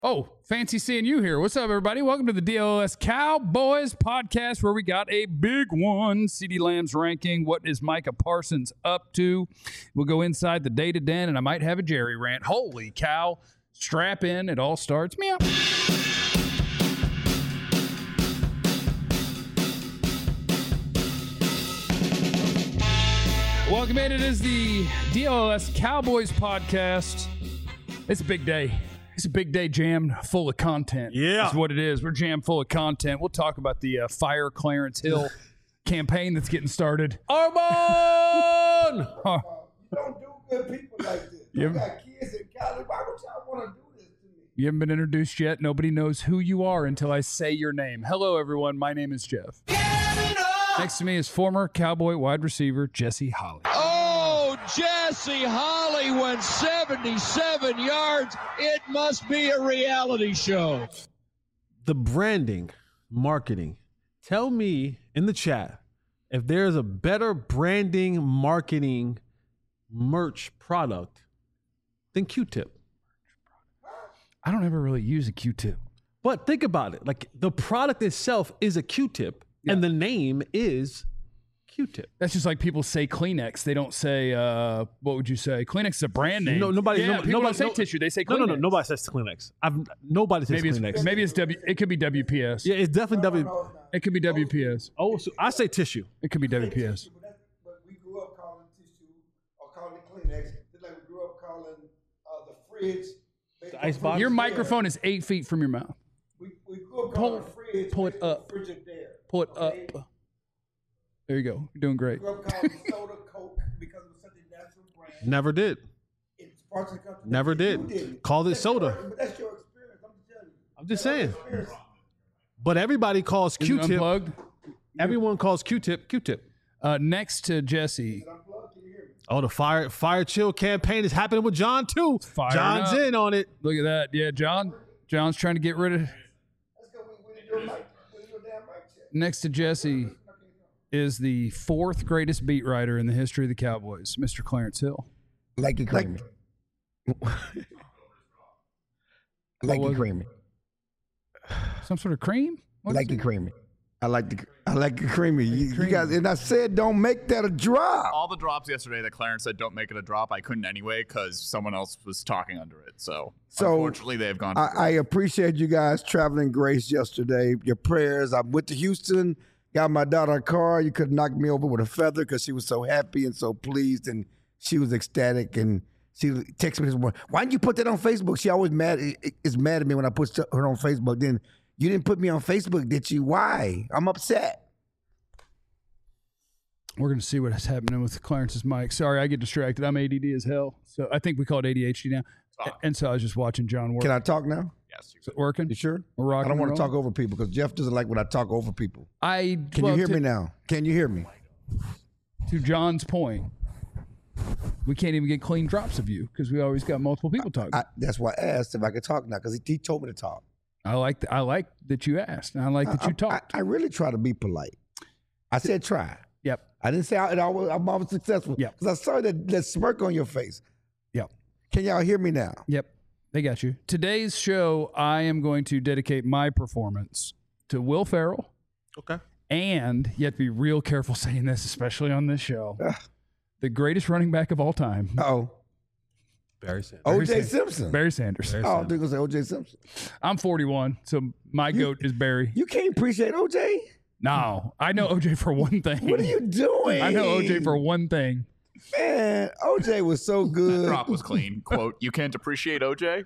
Oh, fancy seeing you here. What's up, everybody? Welcome to the DLS Cowboys podcast, where we got a big one. CeeDee Lamb's ranking. What is Micah Parsons up to? We'll go inside the data den, and I might have a Jerry rant. Holy cow. Strap in. It all starts. Meow. Welcome in. It is the DLS Cowboys podcast. It's a big day. It's a big day jammed full of content. Yeah. That's what it is. We're jammed full of content. We'll talk about the Fire Clarence Hill campaign that's getting started. Armand! You don't do good people like this. You got kids in college. Why would y'all want to do this to me? You haven't been introduced yet. Nobody knows who you are until I say your name. Hello, everyone. My name is Jeff. Next to me is former Cowboy wide receiver Jesse Holley. Oh, Jesse Holley went 77 yards. It must be a reality show. The branding, marketing. Tell me in the chat if there's a better branding, marketing, merch product than Q-Tip. I don't ever really use a Q-tip. But think about it. Like, the product itself is a Q-Tip, and the name is Q-Tip. That's just like people say Kleenex. They don't say, what would you say? Kleenex is a brand name. Nobody don't say tissue. They say Kleenex. No. Nobody says Kleenex. Nobody says Kleenex. Maybe it's it could be WPS. Yeah, it's definitely It could be WPS. Oh, so I say tissue. It could be WPS. But we grew up calling tissue or calling it Kleenex. Just like we grew up calling the fridge. The icebox. Your microphone is 8 feet from your mouth. We grew up calling the fridge. Pull it up. Frigidaire. Pull it up. There you go. You're doing great. We grew up calling soda Coke because it was such a natural brand. Never did. It's parts of the country. Never You did. Called it soda. But that's your experience. I'm just telling you. I'm just saying. But everybody calls Is it Q-Tip. unplugged? Everyone calls Q-Tip Q-Tip. Next to Jesse. Oh, the fire chill campaign is happening with John too. Firing John's up. in on it. Look at that. Yeah, John's trying to get rid of. Let's go. We didn't do a damn mic check. Next to Jesse is the fourth greatest beat writer in the history of the Cowboys, Mr. Clarence Hill. Like it creamy. Like it creamy. Some sort of cream? What Like is it creamy. I like it creamy. You guys, and I said don't make that a drop. All the drops yesterday that Clarence said don't make it a drop, I couldn't anyway because someone else was talking under it. So unfortunately, they have gone. I appreciate you guys traveling grace yesterday. Your prayers. I went to Houston, got my daughter a car. You could knock me over with a feather because she was so happy and so pleased, and she was ecstatic. And she texted me this morning, "Why didn't you put that on Facebook?" She always is mad at me when I put her on Facebook. Then you didn't put me on Facebook, did you? Why? I'm upset. We're going to see what's happening with Clarence's mic. Sorry, I get distracted. I'm ADD as hell. So I think we call it ADHD now. And so I was just watching John work. Can I talk now? Yes, Is it working? You sure? We're rocking I don't want and to talk rolling. over people because Jeff doesn't like when I talk over people. Can Well, you hear to- me now? Can you hear me? To John's point, we can't even get clean drops of you because we always got multiple people talking. That's why I asked if I could talk now because he told me to talk. I like that you asked. And I like that you talked. I really try to be polite. I said try. Yep. I didn't say I'm always successful. Yep. Because I saw that smirk on your face. Yep. Can y'all hear me now? Yep. They got you. Today's show, I am going to dedicate my performance to Will Ferrell. Okay. And you have to be real careful saying this, especially on this show. The greatest running back of all time, Uh-oh. Barry Sanders. O.J. Simpson. Barry Sanders. Oh, I think going to say O.J. Simpson. I'm 41, so my goat is Barry. You can't appreciate O.J.? No, I know OJ for one thing. What are you doing? I know OJ for one thing. Man, O.J. was so good. drop was clean. Quote: "You can't appreciate OJ."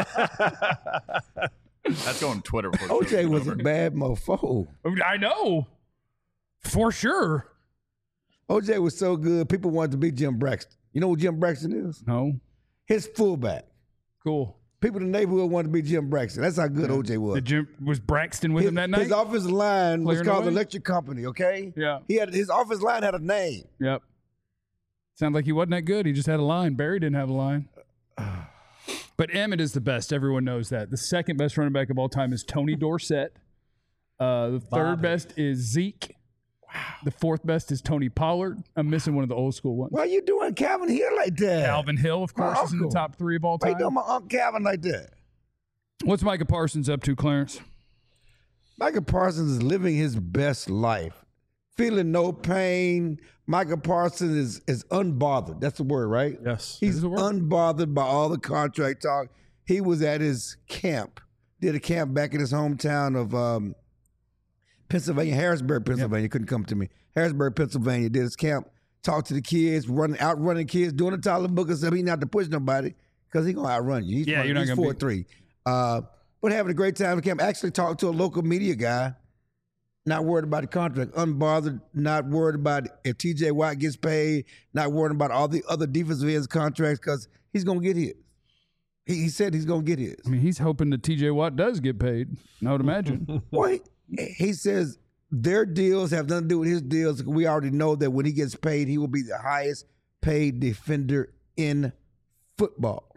That's going to Twitter. before the O.J. show's was a over. bad mofo. I know. For sure. O.J. was so good, people wanted to be Jim Braxton. You know what Jim Braxton is? No. His fullback. Cool. People in the neighborhood wanted to be Jim Braxton. That's how good O.J. was. Was Braxton with him that night? His offensive line was Clearing called the away? Electric Company, okay? Yeah. His offensive line had a name. Yep. Sounds like he wasn't that good. He just had a line. Barry didn't have a line. But Emmett is the best. Everyone knows that. The second best running back of all time is Tony Dorsett. The third best is Zeke. Wow. The fourth best is Tony Pollard. I'm missing one of the old school ones. Why are you doing Calvin Hill like that? Alvin Hill, of course, is in the uncle. top three of all Why time. you doing my Uncle Calvin like that? What's Micah Parsons up to, Clarence? Micah Parsons is living his best life, feeling no pain. Micah Parsons is unbothered. That's the word, right? Yes. He's unbothered by all the contract talk. He was at his camp, did a camp back in his hometown of Pennsylvania, Harrisburg, Pennsylvania. Couldn't come to me. Harrisburg, Pennsylvania. Did his camp, talked to the kids, outrunning kids, doing the Tyler Booker stuff. He didn't have to push nobody because he's going to outrun you. He's 4'3". But having a great time at camp. Actually talked to a local media guy. Not worried about the contract, unbothered, not worried about if TJ Watt gets paid, not worried about all the other defensive ends contracts because he's going to get his. He said he's going to get his. I mean, he's hoping that TJ Watt does get paid, I would imagine. Well, he says their deals have nothing to do with his deals. We already know that when he gets paid, he will be the highest paid defender in football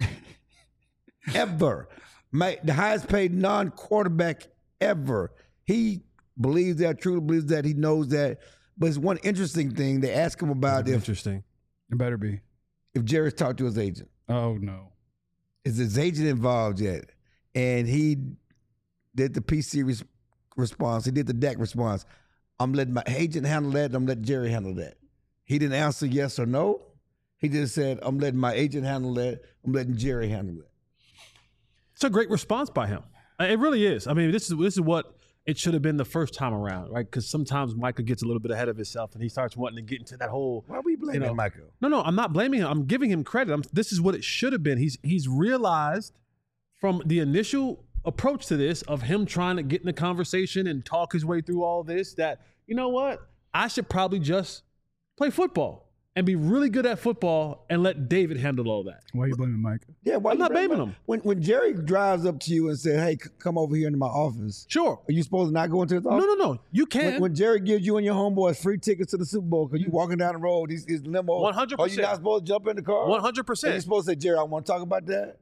ever. The highest paid non-quarterback ever. He believes that, truly believes that, he knows that. But it's one interesting thing. They ask him about It better be. If Jerry's talked to his agent. Oh, no. Is his agent involved yet? And he did the PC response. He did the Dak response. I'm letting my agent handle that, and I'm letting Jerry handle that. He didn't answer yes or no. He just said, I'm letting my agent handle that. I'm letting Jerry handle that. It's a great response by him. It really is. I mean, this is what it should have been the first time around, right? Because sometimes Micah gets a little bit ahead of himself and he starts wanting to get into that whole. Why are we blaming Micah? No, I'm not blaming him. I'm giving him credit. This is what it should have been. He's realized from the initial approach to this of him trying to get in the conversation and talk his way through all this that, you know what? I should probably just play football and be really good at football and let David handle all that. Why are you blaming Micah? Yeah, I'm not blaming him. When Jerry drives up to you and says, hey, come over here into my office. Sure. Are you supposed to not go into his office? No. You can. When Jerry gives you and your homeboys free tickets to the Super Bowl because you walking down the road, his limo. 100%. Are you not supposed to jump in the car? 100%. And you're supposed to say, Jerry, I want to talk about that?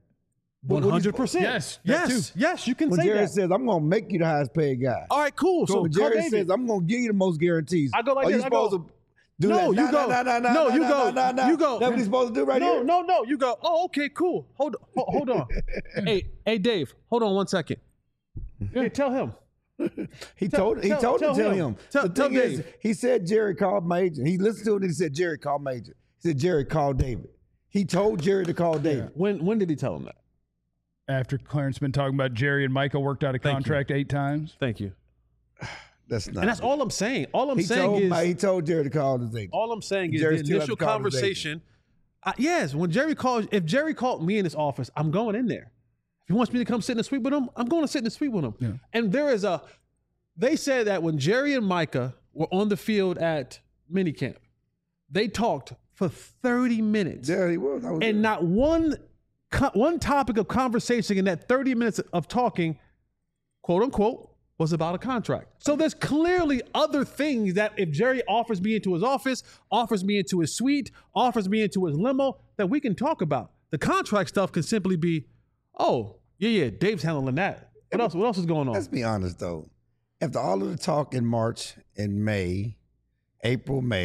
100%. Yes, you can when say Jerry that. says, I'm going to make you the highest paid guy. All right, cool. So when Jerry says, I'm going to give you the most guarantees. I go like Are this. you supposed to do that? You go. You go. That's what he's supposed to do right here? No. You go, oh, okay, cool. Hold on. Hey, Dave, hold on 1 second. Hey, tell him. He told him. Tell Dave. He said Jerry called my agent. He listened to it and he said Jerry called my agent. He said Jerry called David. He told Jerry to call David. When did he tell him that? After Clarence been talking about Jerry and Michael worked out a contract 8 times. Thank you. That's not. And that's all I'm saying. He told Jerry to call his agent. All I'm saying is the initial conversation. Yes, if Jerry called me in his office, I'm going in there. If he wants me to come sit in the suite with him, I'm going to sit in the suite with him. Yeah. And they said that when Jerry and Micah were on the field at minicamp, they talked for 30 minutes. Yeah, he was. And not one topic of conversation in that 30 minutes of talking, quote unquote, was about a contract. So there's clearly other things that if Jerry offers me into his office, offers me into his suite, offers me into his limo, that we can talk about. The contract stuff can simply be, oh, yeah, Dave's handling that. What else is going on? Let's be honest, though. After all of the talk in March and May, April, May,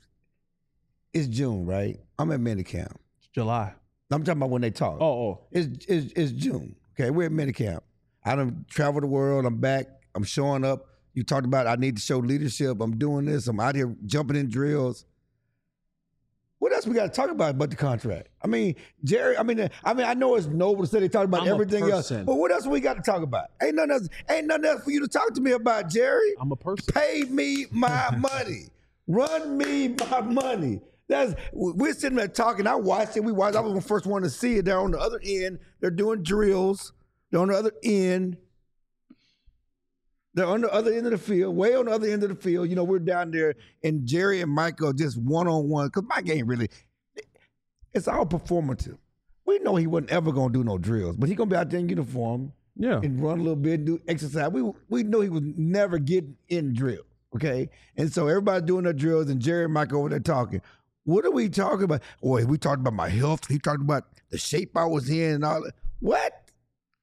it's June, right? I'm at minicamp. It's July. I'm talking about when they talk. Oh. It's June. Okay, we're at minicamp. I done traveled the world. I'm back. I'm showing up. You talked about I need to show leadership. I'm doing this. I'm out here jumping in drills. What else we got to talk about but the contract? I mean, Jerry, I know it's noble to say they talk about everything else, but what else we got to talk about? Ain't nothing else for you to talk to me about, Jerry. I'm a person. Pay me my money. Run me my money. We're sitting there talking. I watched it. I was the first one to see it. They're on the other end. They're doing drills. They're on the other end. They're on the other end of the field, way on the other end of the field. You know, we're down there, and Jerry and Mike are just one-on-one. Because Mike ain't really, it's all performative. We know he wasn't ever going to do no drills, but he's going to be out there in uniform and run a little bit, do exercise. We know he would never get in drill, okay? And so everybody's doing their drills, and Jerry and Mike over there talking. What are we talking about? Boy, we talked about my health. He talked about the shape I was in and all that.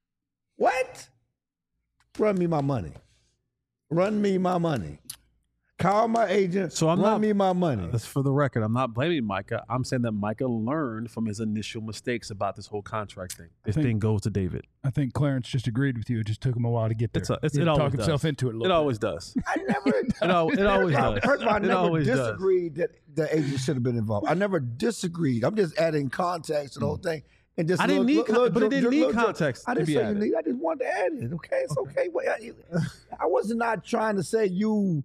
What? Run me my money. Run me my money. Call my agent. So I'm run not me my money. That's for the record. I'm not blaming Micah. I'm saying that Micah learned from his initial mistakes about this whole contract thing. This thing goes to David. I think Clarence just agreed with you. It just took him a while to get there. It always talk himself does. into it a little It bit. always does. I never. It always does. First of all, I It never always does. disagreed that the agent should have been involved. I never disagreed. I'm just adding context to the whole thing. And just I didn't need but it didn't need context I to didn't be say you added. need. I just wanted to add it. Okay, it's okay. Well, I was not trying to say you.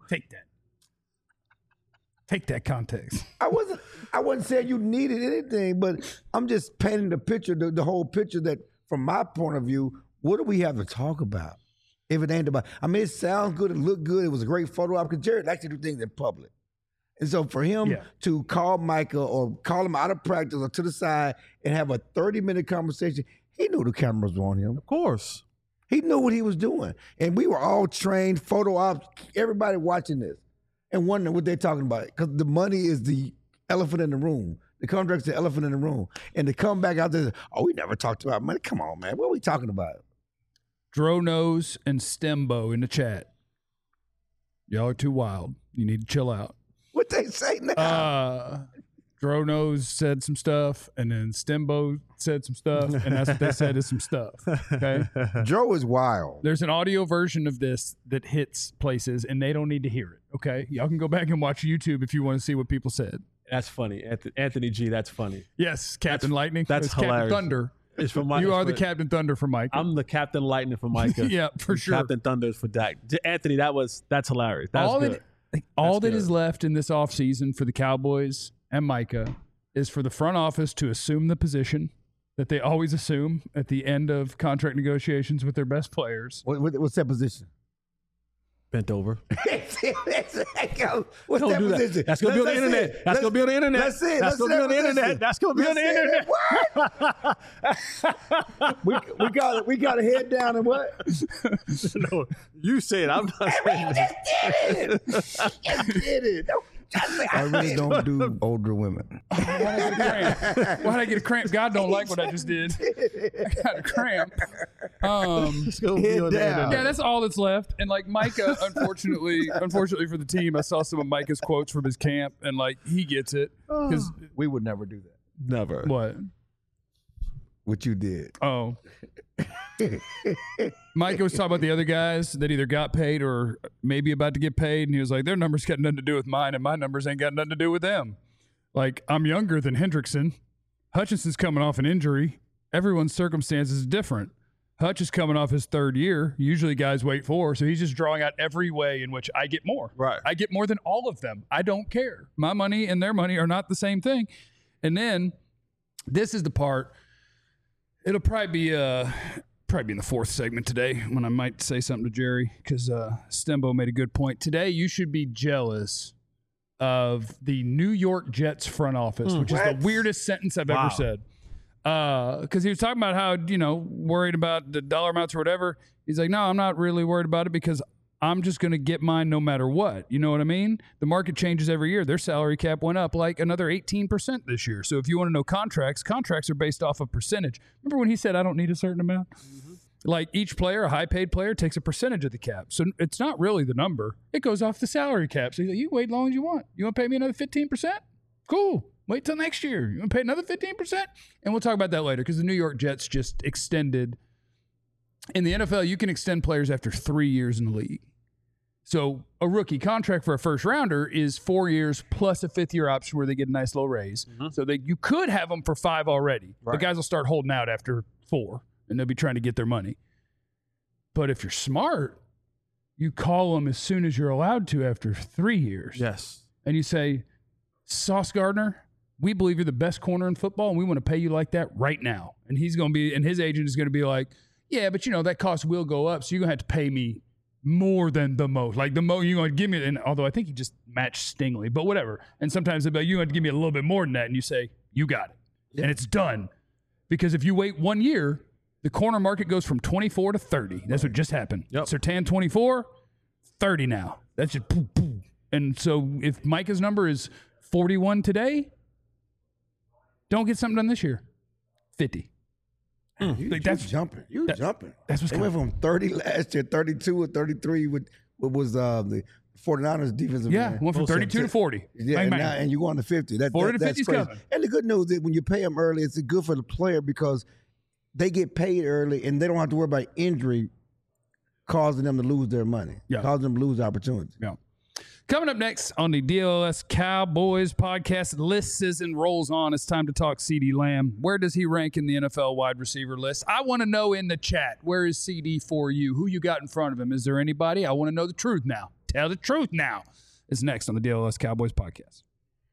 Take that context. I wasn't saying you needed anything, but I'm just painting the picture, the whole picture that, from my point of view, what do we have to talk about if it ain't about? I mean, it sounds good, it looked good, it was a great photo op, because Jared likes to do things in public. And so for him to call Micah or call him out of practice or to the side and have a 30-minute conversation, he knew the cameras were on him. Of course. He knew what he was doing. And we were all trained, photo ops, everybody watching this and wondering what they're talking about. Because the money is the elephant in the room. The contract's the elephant in the room. And to come back out there, we never talked about money. Come on, man. What are we talking about? Dronos and Stembo in the chat. Y'all are too wild. You need to chill out. What they say now? Dronos said some stuff, and then Stembo said some stuff, and that's what they said is some stuff. Okay, Dro is wild. There's an audio version of this that hits places, and they don't need to hear it. Okay, y'all can go back and watch YouTube if you want to see what people said. That's funny, Anthony G. That's funny. Yes, Captain Lightning. That's Captain hilarious. Thunder. It's for You are the Captain Thunder for Micah. I'm the Captain Lightning for Micah. Yeah, for sure. Captain Thunder is for Dak. Anthony, that's hilarious. That's good. All that is left in this offseason for the Cowboys and Micah is for the front office to assume the position that they always assume at the end of contract negotiations with their best players. What's that position? Bent over. What's Don't that do that. position? That's going to be on the internet. That's going to be on the internet. That's it. That's going to be on the internet. That's going to be on the internet. We got to head down and what? No, you say it. I'm not saying it. Just did it. I really don't do older women. Why'd I get a cramp? God don't like what I just did. I got a cramp. It's going to be on the internet. Yeah, that's all that's left. And like Micah, unfortunately for the team, I saw some of Micah's quotes from his camp, and like he gets it because we would never do that. Never. What you did. Oh. Micah was talking about the other guys that either got paid or maybe about to get paid, and he was like, their numbers got nothing to do with mine, and my numbers ain't got nothing to do with them. Like, I'm younger than Hendrickson. Hutchinson's coming off an injury. Everyone's circumstances is different. Hutch is coming off his third year. Usually guys wait for, so he's just drawing out every way in which I get more. Right. I get more than all of them. I don't care. My money and their money are not the same thing. And then this is the part. It'll probably be in the fourth segment today when I might say something to Jerry, because Stembo made a good point. Today, you should be jealous of the New York Jets front office, which is the weirdest sentence I've ever said. Because he was talking about how, worried about the dollar amounts or whatever. He's like, no, I'm not really worried about it because I'm just going to get mine no matter what. You know what I mean? The market changes every year. Their salary cap went up like another 18% this year. So if you want to know contracts are based off of percentage. Remember when he said, I don't need a certain amount? Mm-hmm. Like each player, a high-paid player, takes a percentage of the cap. So it's not really the number. It goes off the salary cap. So he's like, you wait as long as you want. You want to pay me another 15%? Cool. Wait till next year. You want to pay another 15%? And we'll talk about that later because the New York Jets just extended. In the NFL, you can extend players after 3 years in the league. So a rookie contract for a first rounder is 4 years plus a fifth-year option where they get a nice little raise. Mm-hmm. So you could have them for 5 already. Right. The guys will start holding out after 4, and they'll be trying to get their money. But if you're smart, you call them as soon as you're allowed to after 3 years. Yes. And you say, Sauce Gardner, we believe you're the best corner in football, and we want to pay you like that right now. And his agent is going to be like, yeah, but that cost will go up, so you're going to have to pay me more than the most. Like the most you're going to give me, and although I think he just matched Stingley, but whatever. And sometimes they'll be like, you have to give me a little bit more than that. And you say, you got it. Yeah. And it's done. Because if you wait 1 year, the corner market goes from 24 to 30. That's what just happened. Yep. Surtain 24, 30 now. That's just poof, poof. And so if Micah's number is 41 today, don't get something done this year. 50. That's jumping. Jumping. That's what's they went from 30 last year, 32 or 33 with what was the 49ers defensive Yeah, man. went from 32 to 40. Yeah, Bang, and, bang. and you go on to 50. 40 to that's 50's crazy. coming. And the good news is when you pay them early, it's good for the player because they get paid early and they don't have to worry about injury causing them to lose their money, causing them to lose opportunities. Yeah. Coming up next on the DLS Cowboys podcast, list season rolls on. It's time to talk CeeDee Lamb. Where does he rank in the NFL wide receiver list? I want to know in the chat, where is CeeDee for you? Who you got in front of him? Is there anybody? I want to know the truth now. Tell the truth now. It's next on the DLS Cowboys podcast.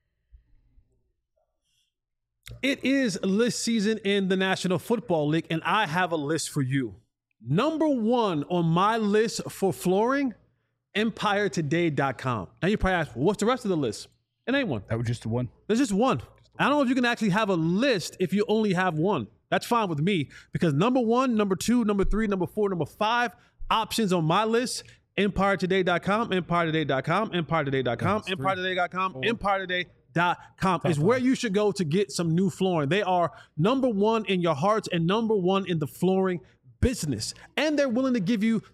It is list season in the National Football League, and I have a list for you. Number one on my list for flooring, EmpireToday.com. Now you probably ask, well, what's the rest of the list? It ain't one. That was just the one. There's just one. I don't know if you can actually have a list if you only have one. That's fine with me because number one, number two, number three, number four, number five options on my list, EmpireToday.com, EmpireToday.com, EmpireToday.com, EmpireToday.com, EmpireToday.com is where you should go to get some new flooring. They are number one in your hearts and number one in the flooring business. And they're willing to give you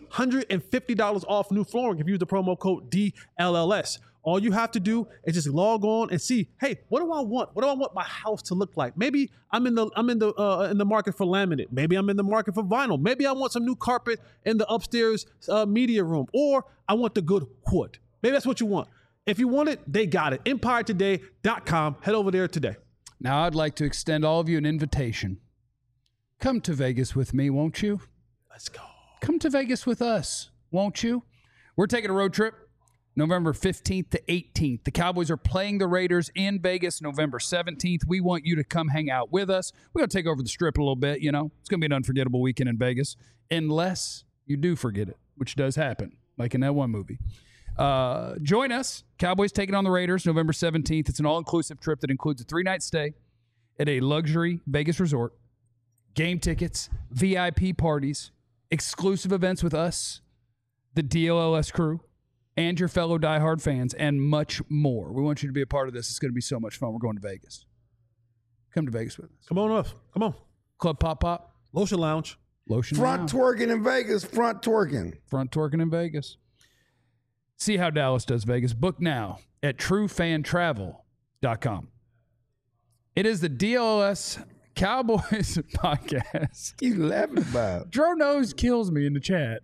$350 off new flooring if you use the promo code DLLS. All you have to do is just log on and see, hey, what do I want? What do I want my house to look like? Maybe I'm in the market for laminate. Maybe I'm in the market for vinyl. Maybe I want some new carpet in the upstairs media room, or I want the good wood. Maybe that's what you want. If you want it, they got it. EmpireToday.com. Head over there today. Now I'd like to extend all of you an invitation. Come to Vegas with me, won't you? Let's go. Come to Vegas with us, won't you? We're taking a road trip November 15th to 18th. The Cowboys are playing the Raiders in Vegas November 17th. We want you to come hang out with us. We're going to take over the strip a little bit, you know. It's going to be an unforgettable weekend in Vegas, unless you do forget it, which does happen, like in that one movie. Join us. Cowboys taking on the Raiders November 17th. It's an all-inclusive trip that includes a 3-night stay at a luxury Vegas resort, game tickets, VIP parties, exclusive events with us, the DLLS crew, and your fellow diehard fans, and much more. We want you to be a part of this. It's going to be so much fun. We're going to Vegas. Come to Vegas with us. Come on up. Come on. Club Pop Pop. Lotion Lounge. Lotion Front Lounge. twerking in Vegas. Front twerking. Front twerking in Vegas. See how Dallas does Vegas. Book now at truefantravel.com. It is the DLS Cowboys podcast. He's laughing about it. Dro Nose kills me in the chat.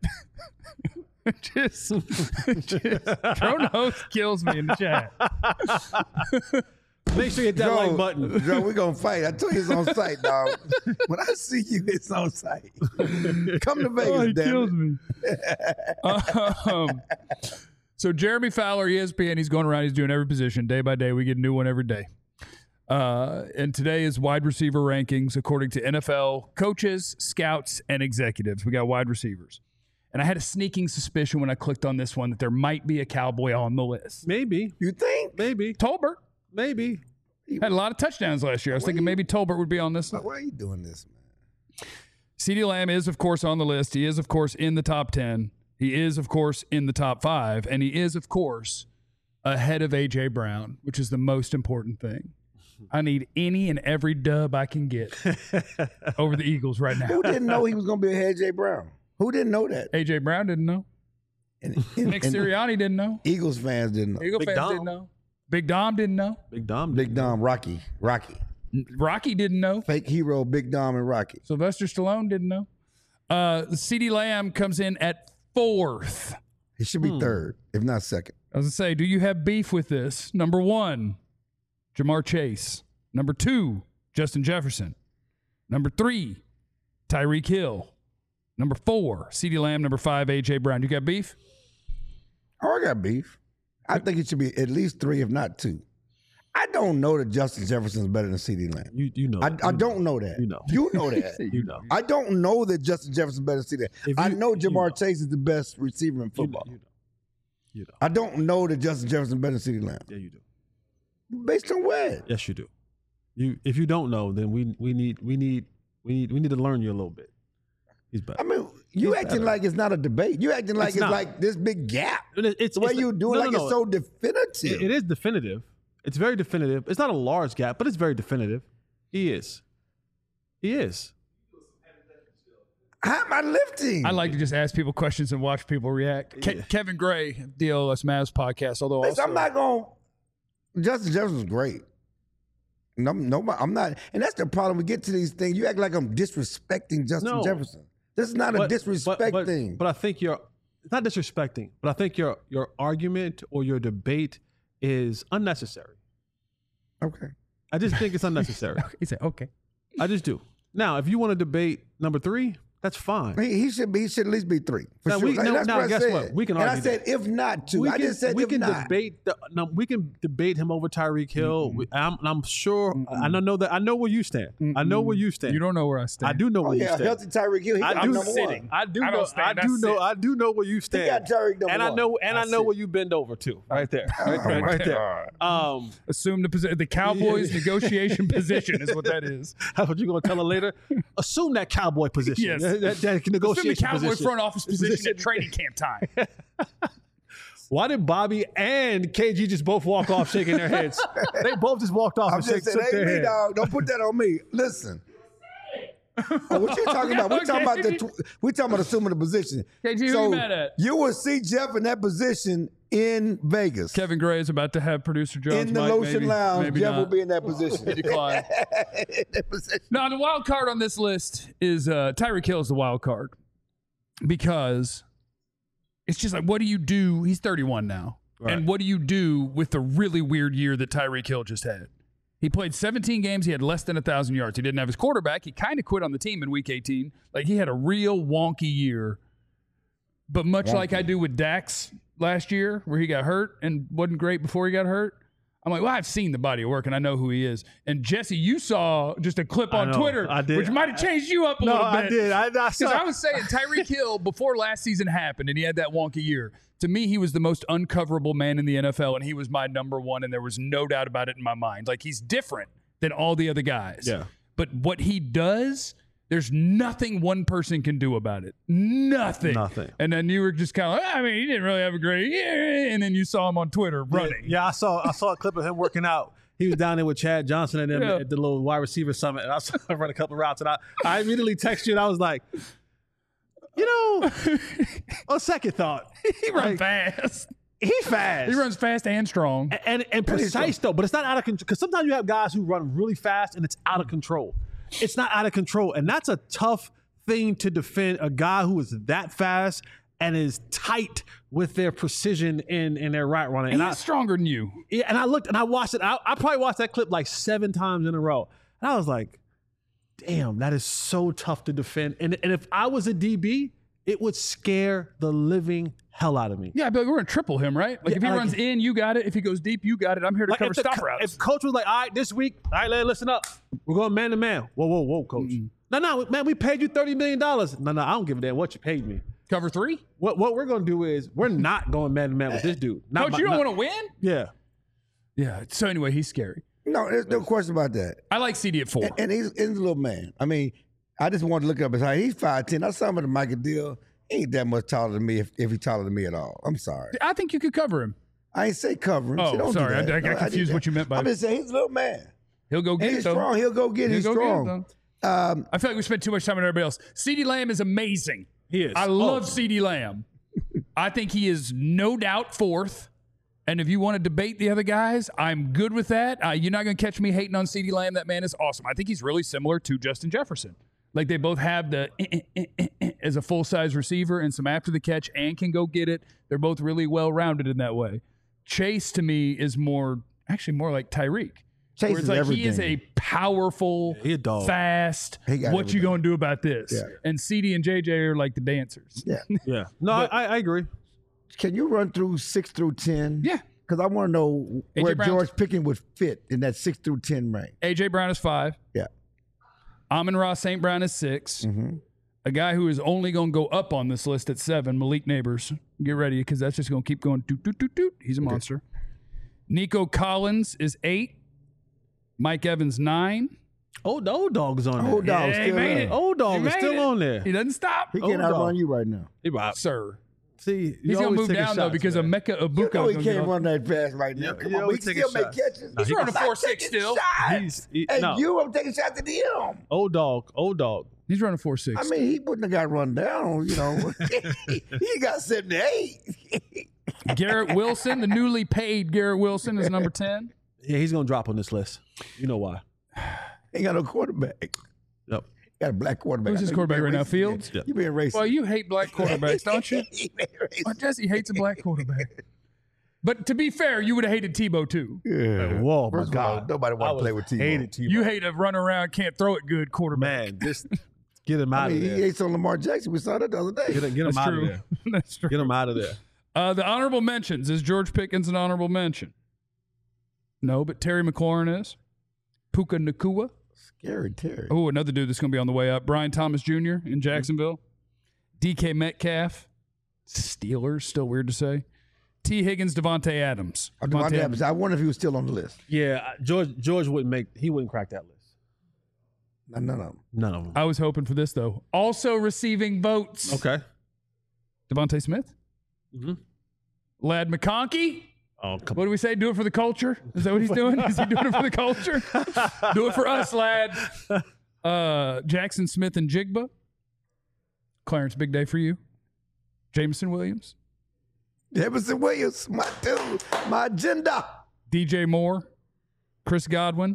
just Dro Nose kills me in the chat. Make sure you hit that like button. Joe, we're going to fight. I told you it's on site, dog. When I see you, it's on site. Come to Vegas, he damn kills it. me. So Jeremy Fowler, ESPN, he's going around. He's doing every position day by day. We get a new one every day. And today is wide receiver rankings according to NFL coaches, scouts, and executives. We got wide receivers. And I had a sneaking suspicion when I clicked on this one that there might be a Cowboy on the list. Maybe. You think? Maybe. Tolbert Maybe. had a lot of touchdowns last year. I was thinking maybe Tolbert would be on this list. Why are you doing this, man? CeeDee Lamb is, of course, on the list. He is, of course, in the top 10. He is, of course, in the top 5. And he is, of course, ahead of A.J. Brown, which is the most important thing. I need any and every dub I can get over the Eagles right now. Who didn't know he was going to be ahead of A.J. Brown? Who didn't know that? A.J. Brown didn't know. Nick Sirianni didn't know. Eagles fans didn't know. Eagle Big fans Dom. didn't know. Big Dom didn't know. Big Dom. Big Dom, Rocky. Rocky didn't know. Fake hero, Big Dom and Rocky. Sylvester Stallone didn't know. CeeDee Lamb comes in at 4th. He should be third, if not second. I was going to say, do you have beef with this? Number 1, Jamar Chase. Number 2, Justin Jefferson. Number 3, Tyreek Hill. Number 4, CeeDee Lamb. Number 5, A.J. Brown. You got beef? Oh, I got beef. I think it should be at least 3, if not 2. I don't know that Justin Jefferson is better than CeeDee Lamb. You know. I don't know that. You know. You know that. You know. I don't know that Justin Jefferson is better than CeeDee Lamb. I know Jamar Chase is the best receiver in football. You know. I don't know that Justin Jefferson is better than CeeDee Lamb. Yeah, you do. Based on what? Yes, you do. If you don't know, then we need to learn you a little bit. He's better. I mean, you acting like it's not a debate. You acting like it's like this big gap. It's the way you do it, it's so definitive. It is definitive. It's very definitive. It's not a large gap, but it's very definitive. He is. How am I lifting? I like to just ask people questions and watch people react. Kevin Gray, DLS Mavs podcast. Although Listen, also, I'm not going. Justin Jefferson's great. No, I'm not. And that's the problem. We get to these things. You act like I'm disrespecting Justin Jefferson. This is not a disrespect thing. But I think it's not disrespecting, but I think your argument or your debate is unnecessary. Okay. I just think it's unnecessary. he said, okay. I just do. Now, if you want to debate number 3, that's fine. He should at least be 3. For sure. Guess what? We can argue. And I said, if not 2. I just said, we if can not. we can debate him over Tyreek Hill. I'm sure. I know where you stand. I know where you stand. You don't know where I stand. I do know where you stand. Healthy Tyreek Hill. I'm number sitting. 1. I do know where you stand. He got Tyreek number 1. I know where you bend over to. Right there. Right there. Assume the Cowboys' negotiation position is what that is. That's what you're gonna tell her later. Assume that Cowboy position. Yes. That negotiation Assume the Cowboy position. front office position at training camp time. Why did Bobby and KG just both walk off shaking their heads? They both just walked off I'm and just saying, shook their me, head. dog. Don't put that on me. Listen. What you talking about? We're talking about we talking about assuming the position. KG, who you mad at? You will see Jeff in that position in Vegas. Kevin Gray is about to have producer Jones. In the Lotion Lounge, Jeff will be in that position. Decline. No, the wild card on this list is Tyreek Hill is the wild card because it's just like, what do you do? He's 31 now. Right. And what do you do with the really weird year that Tyreek Hill just had? He played 17 games. He had less than 1,000 yards. He didn't have his quarterback. He kind of quit on the team in week 18. Like, he had a real wonky year. But much like I do with Dax last year, where he got hurt and wasn't great before he got hurt, I'm like, well, I've seen the body of work, and I know who he is. And, Jesse, you saw just a clip on Twitter, which might have changed you up a little bit. No, I did. Because I was saying Tyreek Hill, before last season happened and he had that wonky year, to me, he was the most uncoverable man in the NFL, and he was my number one, and there was no doubt about it in my mind. Like, he's different than all the other guys. Yeah. But what he does, there's nothing one person can do about it. Nothing. And then you were just kind of like, I mean, he didn't really have a great year. And then you saw him on Twitter running. Yeah, I saw a clip of him working out. He was down there with Chad Johnson and them at the little wide receiver summit. And I saw him run a couple of routes. And I immediately texted you, and I was like, you know, on second thought. He runs fast. He's fast. He runs fast and strong. And precise, though. But it's not out of control. Because sometimes you have guys who run really fast, and it's out of control. It's not out of control. And that's a tough thing to defend, a guy who is that fast and is tight with their precision in their right running. And he's stronger than you. Yeah, and I looked and I watched it. I probably watched that clip like 7 times in a row. And I was like, damn, that is so tough to defend. And if I was a DB, it would scare the living hell out of me. Yeah, but we're going to triple him, right? Like, if he runs in, you got it. If he goes deep, you got it. I'm here to cover stop routes. If coach was like, all right, this week, all right, listen up. We're going man to man. Whoa, coach. No, man, we paid you $30 million. No, I don't give a damn what you paid me. Cover 3? What we're going to do is we're not going man to man with this dude. Coach, you don't want to win? Yeah. Yeah. So anyway, he's scary. No, there's no question about that. I like CD at 4. And he's a little man. I mean, I just wanted to look up his height. He's 5'10". I saw him at the Michael Deal. He ain't that much taller than me if he's taller than me at all. I'm sorry. I think you could cover him. I ain't say cover him. Oh, sorry. I got confused what you meant by I'm just saying he's a little man. He'll go get it, though. Strong. He'll go get it. He's strong. I feel like we spent too much time on everybody else. CeeDee Lamb is amazing. He is. I love CeeDee Lamb. I think he is no doubt 4th. And if you want to debate the other guys, I'm good with that. You're not going to catch me hating on CeeDee Lamb. That man is awesome. I think he's really similar to Justin Jefferson. Like, they both have the as a full-size receiver and some after the catch and can go get it. They're both really well-rounded in that way. Chase, to me, is more like Tyreek. Chase where it's is like everything. He is a powerful, fast, what you going to do about this? Yeah. And CD and JJ are like the dancers. Yeah. No, I agree. Can you run through 6 through 10? Yeah. Because I want to know where George Pickens would fit in that 6 through 10 range. A.J. Brown is 5. Yeah. Amon-Ra St. Brown is 6. Mm-hmm. A guy who is only going to go up on this list at 7, Malik Neighbors. Get ready, because that's just going to keep going. Doot, doot, doot, doot. He's a monster. Nico Collins is 8. Mike Evans, 9. Old dog is on there. Old dog still made there. it. Old dog is still on there. He doesn't stop. He can't outrun you right now. Sir. See, He's going to move down, though, because of Mecca Abuka. You know he can't run that fast right now. Come on, he still make catches. He's running a 4.6 still. I'm taking shots at him. Old dog. He's running 4.6. I mean, he wouldn't have got run down, you know. He got 78. Garrett Wilson, the newly paid Garrett Wilson, is number 10. Yeah, he's going to drop on this list. You know why. Ain't got no quarterback. Yep. Got a black quarterback. Who's his quarterback right now? Fields? Yeah. You being racist. Well, you hate black quarterbacks, don't you? He being racist. Well, Jesse hates a black quarterback. But to be fair, you would have hated Tebow too. Yeah. Whoa, my First of all, God. nobody want to play with Tebow. Hated Tebow. You hate a run around, can't throw it good quarterback. Man, just get him out I mean, of he there. hates on Lamar Jackson. We saw that the other day. Get him That's out true. of there. That's true. Get him out of there. The honorable mentions. Is George Pickens an honorable mention? No, but Terry McLaurin is. Puka Nacua. Scary Terry. Oh, another dude that's going to be on the way up. Brian Thomas Jr. in Jacksonville. DK Metcalf. Steelers, still weird to say. T. Higgins, Devontae Adams. Devontae Adams. I wonder if he was still on the list. Yeah, George wouldn't crack that list. None of them. None of them. I was hoping for this, though. Also receiving votes. Okay. Devontae Smith. Mm-hmm. Lad McConkey. Oh, come What do we say? Do it for the culture? Is that what he's doing? Is he doing it for the culture? Do it for us, lad. Jackson Smith and Jigba. Clarence, big day for you. Jameson Williams. Emerson Williams, my dude, my agenda. DJ Moore. Chris Godwin.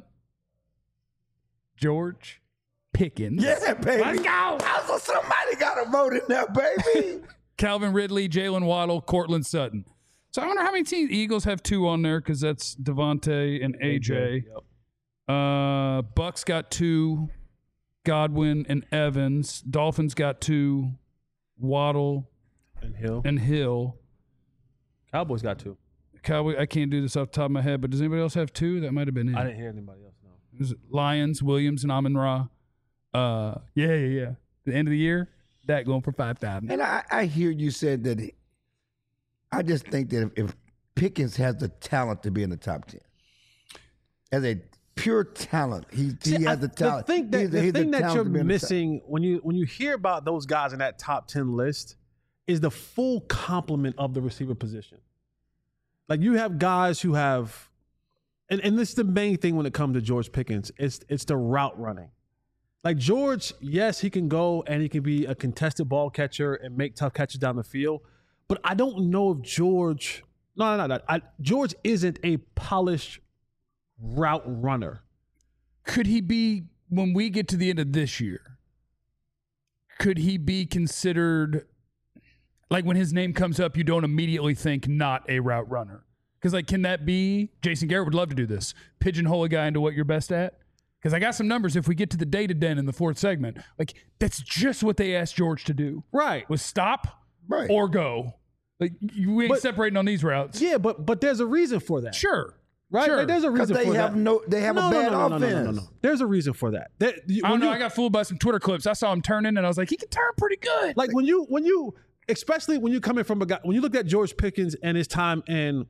George Pickens. Yeah, baby. Let's go. Also, somebody got a vote in there, baby. Calvin Ridley, Jalen Waddle, Cortland Sutton. So I wonder how many teams. Eagles have 2 on there because that's Devontae and AJ. Yep. Bucks got 2. Godwin and Evans. Dolphins got 2. Waddle And Hill. Cowboys got 2. Cowboy. I can't do this off the top of my head, but does anybody else have 2? That might have been it. I didn't hear anybody else. No. It was Lions, Williams, and Amon Ra. Yeah. The end of the year, that going for 5,000. And I hear you said that. I just think that if Pickens has the talent to be in the top 10, as a pure talent, he has the talent. The thing He's that talent you're to be in the top. missing when you hear about those guys in that top 10 list is the full complement of the receiver position. Like you have guys who have, and this is the main thing when it comes to George Pickens. It's the route running. Like George, yes, he can go and he can be a contested ball catcher and make tough catches down the field. But I don't know if George isn't a polished route runner. Could he be, when we get to the end of this year, could he be considered, like when his name comes up, you don't immediately think not a route runner? Because like, can that be, Jason Garrett would love to do this, pigeonhole a guy into what you're best at? Because I got some numbers. If we get to the data den in the 4th segment, like that's just what they asked George to do. Right. Was stop Right. or go. Like we ain't But- separating on these routes. Yeah, but there's a reason for that. Sure. Right? Sure. Like, there's a Because reason they for have that. they have a bad offense. No. There's a reason for that. I don't know. I got fooled by some Twitter clips. I saw him turning, and I was like, he can turn pretty good. Like when you, especially when you coming from a guy, when you look at George Pickens and his time in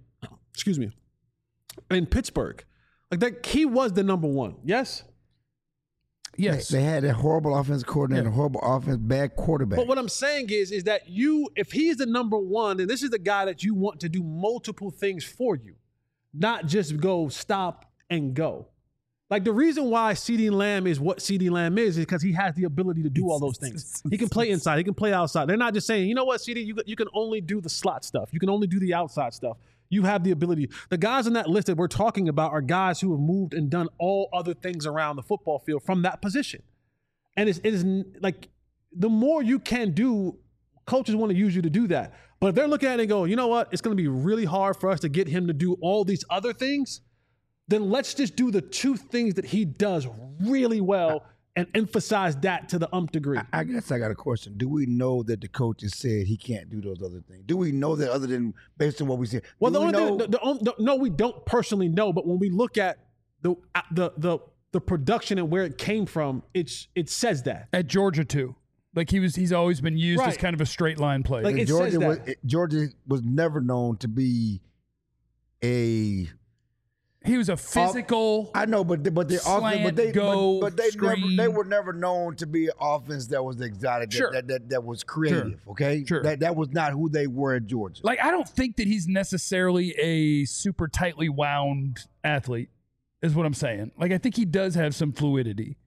Pittsburgh, like that, he was the number 1. Yes. yes. They had a horrible offense coordinator, horrible offense, bad quarterback. But what I'm saying is that if he's the number 1, then this is the guy that you want to do multiple things for you, not just go stop and go. Like the reason why CeeDee Lamb is what CeeDee Lamb is because he has the ability to do all those things. He can play inside, he can play outside. They're not just saying, you know what, CeeDee, you can only do the slot stuff. You can only do the outside stuff. You have the ability. The guys on that list that we're talking about are guys who have moved and done all other things around the football field from that position. And it is like the more you can do, coaches want to use you to do that. But if they're looking at it and go, you know what, it's going to be really hard for us to get him to do all these other things, then let's just do the 2 things that he does really well and emphasize that to the degree. I guess I got a question. Do we know that the coaches said he can't do those other things? Do we know that other than based on what we said? Well, Do the we only know- thing, no, we don't personally know, but when we look at the production and where it came from, it says that. At Georgia too. Like he's always been used as Right. kind of a straight line play. Like, it says that. Georgia was never known to be a. he was a physical. I know, but the offense, Slant, but go, they screen. they were never known to be an offense that was exotic, Sure. that was creative. Okay, Sure. that was not who they were at Georgia. Like I don't think that he's necessarily a super tightly wound athlete, is what I'm saying. Like I think he does have some fluidity.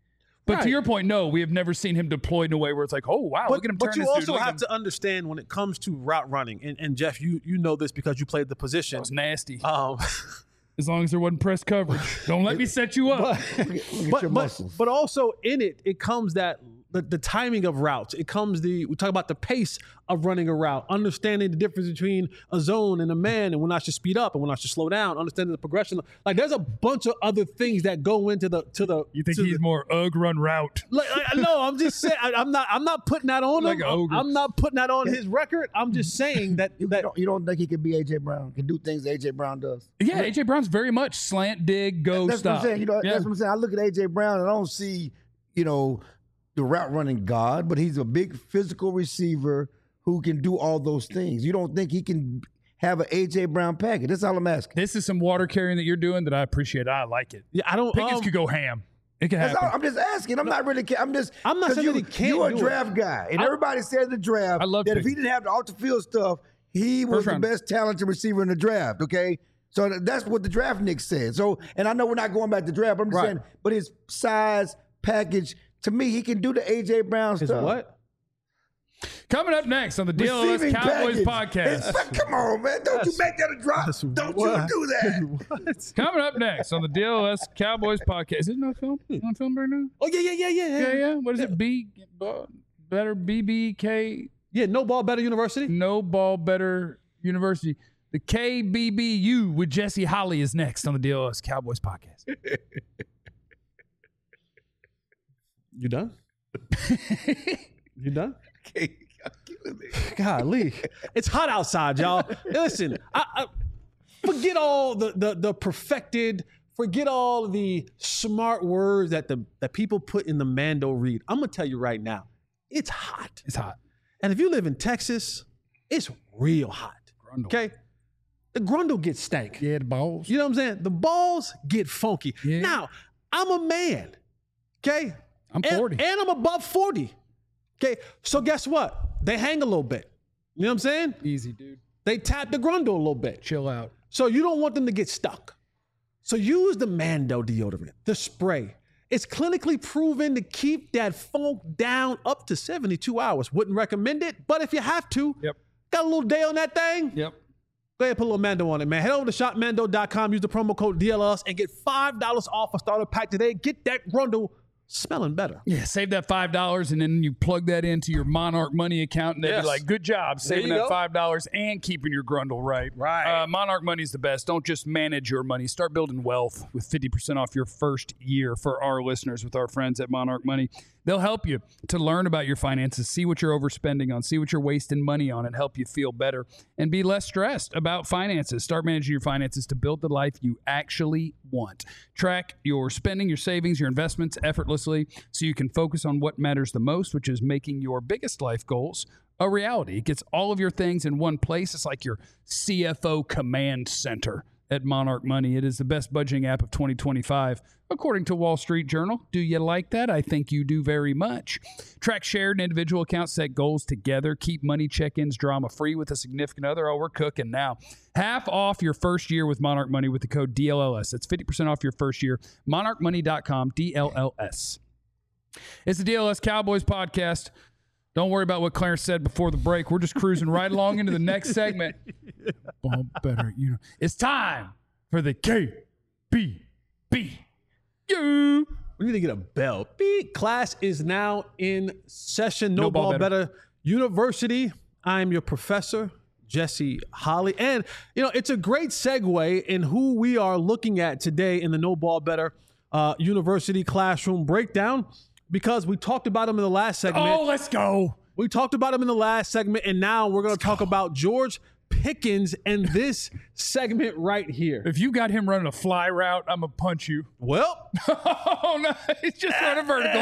But to your point, no, we have never seen him deployed in a way where it's like, oh, wow, look at him turn But you this dude. also have to understand when it comes to route running, and Jeff, you know this because you played the position. That was nasty. As long as there wasn't press coverage. Don't let me set you up. But also in it comes that the timing of routes. It comes we talk about the pace of running a route, understanding the difference between a zone and a man, and when I should speed up and when I should slow down, understanding the progression. Like there's a bunch of other things that go into the. You think he's more run route? No, I'm just saying. I'm not putting that on him. I'm not putting that on his record. I'm just saying that you don't think he could be AJ Brown? Can do things AJ Brown does? Yeah, AJ Brown's very much slant, dig, go, that's stop. What I'm saying. That's what I'm saying. I look at AJ Brown and I don't see the route running god, but he's a big physical receiver who can do all those things. You don't think he can have an AJ Brown package? That's all I'm asking. This is some water carrying that you're doing that I appreciate. I like it. Yeah, I don't. Pickens could go ham. It can happen. I'm just asking. I'm not saying he can't. You're a draft guy, and everybody said in the draft that if he didn't have the off the field stuff, he was the best talented receiver in the draft. Okay. So that's what the draft Nick said. So, and I know we're not going back to draft, but I'm just saying, but his size, package, to me, he can do the AJ Brown stuff. What? Coming up next on the DLS Cowboys podcast. Come on, man. Don't you make that a drop. Don't you do that. What? Coming up next on the DLS Cowboys podcast. Is it on film? On film right now? Oh, yeah. What is it? Better BBK? Yeah, No Ball Better University. No Ball Better University. The KBBU with Jesse Holly is next on the DLS Cowboys podcast. You done? You done? Golly. It's hot outside, y'all. Listen, I forget all the perfected, forget all the smart words that people put in the Mando read. I'm going to tell you right now, it's hot. It's hot. And if you live in Texas, it's real hot. Grundle. Okay? The grundle gets stank. Yeah, the balls. You know what I'm saying? The balls get funky. Yeah. Now, I'm a man. Okay? I'm 40. And I'm above 40. Okay? So guess what? They hang a little bit. You know what I'm saying? Easy, dude. They tap the grundle a little bit. Chill out. So you don't want them to get stuck. So use the Mando deodorant, the spray. It's clinically proven to keep that funk down up to 72 hours. Wouldn't recommend it, but if you have to, got a little day on that thing? Yep. Go ahead and put a little Mando on it, man. Head over to shopmando.com, use the promo code DLS, and get $5 off a starter pack today. Get that grundle smelling better. Yeah, save that $5 and then you plug that into your Monarch Money account and they'll be like, good job saving that $5 and keeping your grundle right. Right. Monarch Money is the best. Don't just manage your money. Start building wealth with 50% off your first year for our listeners with our friends at Monarch Money. They'll help you to learn about your finances, see what you're overspending on, see what you're wasting money on, and help you feel better and be less stressed about finances. Start managing your finances to build the life you actually want. Track your spending, your savings, your investments effortlessly so you can focus on what matters the most, which is making your biggest life goals a reality. It gets all of your things in one place. It's like your CFO command center at Monarch Money. It is the best budgeting app of 2025, according to Wall Street Journal. Do you like that? I think you do very much. Track shared and individual accounts, set goals together, keep money check-ins drama-free with a significant other. Oh, we're cooking now. Half off your first year with Monarch Money with the code DLLS. That's 50% off your first year. MonarchMoney.com, DLLS. It's the DLS Cowboys podcast. Don't worry about what Clarence said before the break. We're just cruising right along into the next segment. Ball better, It's time for the KBBU. We need to get a bell. Class is now in session. No Ball Better University. I'm your professor, Jesse Holly. And, it's a great segue in who we are looking at today in the No Ball Better University classroom breakdown, because we talked about him in the last segment. Oh, let's go. We talked about him in the last segment, and now we're going to talk about George Pickens in this segment right here. If you got him running a fly route, I'm going to punch you. Well. Oh, no. He's just running vertical.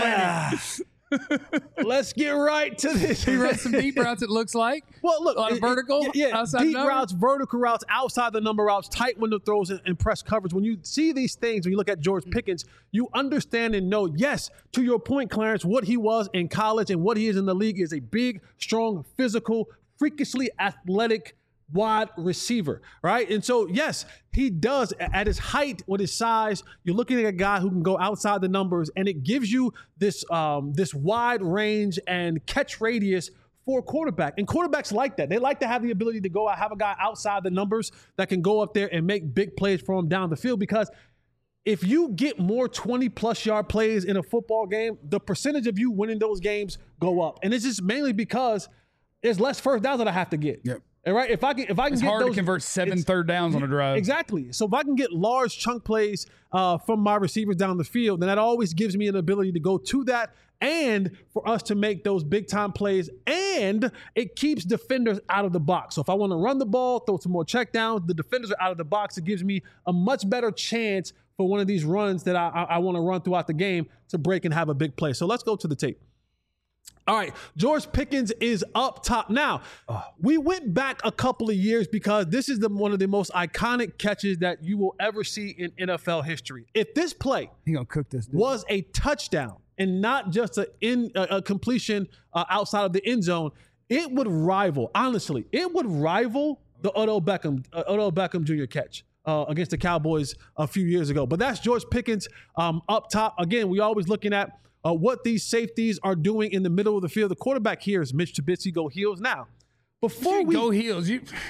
Let's get right to this. He runs some deep routes, it looks like. Well, look. On a vertical? Deep routes, vertical routes, outside the number routes, tight window throws, and press coverage. When you see these things, when you look at George Pickens, you understand and know, yes, to your point, Clarence, what he was in college and what he is in the league is a big, strong, physical, freakishly athletic wide receiver, right? And so, yes, he does at his height with his size. You're looking at a guy who can go outside the numbers, and it gives you this this wide range and catch radius for a quarterback. And quarterbacks like that. They like to have the ability to go out, have a guy outside the numbers that can go up there and make big plays for him down the field, because if you get more 20-plus yard plays in a football game, the percentage of you winning those games go up. And it's just mainly because there's less first downs that I have to get. Yep. And right, if I can it's get hard those, to convert 7 third downs on a drive. Exactly. So if I can get large chunk plays from my receivers down the field, then that always gives me an ability to go to that and for us to make those big time plays. And it keeps defenders out of the box. So if I want to run the ball, throw some more check downs, the defenders are out of the box. It gives me a much better chance for one of these runs that I want to run throughout the game to break and have a big play. So let's go to the tape. All right, George Pickens is up top. Now, we went back a couple of years because this is one of the most iconic catches that you will ever see in NFL history. If this play was a touchdown and not just a completion outside of the end zone, it would rival, honestly, the Odell Beckham Jr. catch against the Cowboys a few years ago. But that's George Pickens up top. Again, we always looking at what these safeties are doing in the middle of the field. The quarterback here is Mitch Trubisky. Go Heels now. Before we go Heels,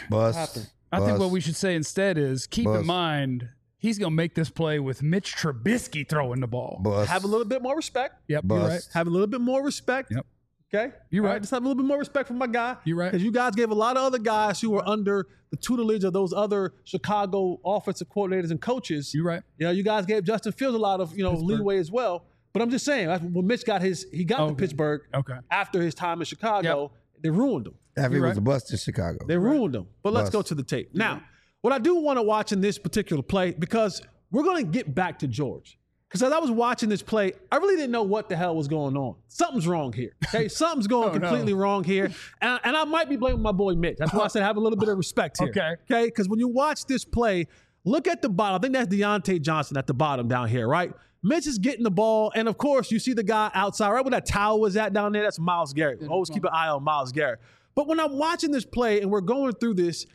I think what we should say instead is keep in mind he's going to make this play with Mitch Trubisky throwing the ball. Have a little bit more respect. Yep, you're right. Have a little bit more respect. Yep. Okay? You're right. Just have a little bit more respect for my guy. You're right. Because you guys gave a lot of other guys who were under the tutelage of those other Chicago offensive coordinators and coaches. You're right. You know, you guys gave Justin Fields a lot of, leeway as well. But I'm just saying, when Mitch got to Pittsburgh after his time in Chicago, they ruined him. After he was a bust in Chicago. They ruined him. But let's go to the tape. Now, what I do want to watch in this particular play, because we're going to get back to George. Because as I was watching this play, I really didn't know what the hell was going on. Something's wrong here. Okay, something's going completely wrong here. And I might be blaming my boy Mitch. That's why I said have a little bit of respect here. Okay, because when you watch this play, look at the bottom. I think that's Deontay Johnson at the bottom down here, right? Mitch is getting the ball, and of course, you see the guy outside, right where that towel was at down there. That's Myles Garrett. Always keep an eye on Myles Garrett. But when I'm watching this play and we're going through this,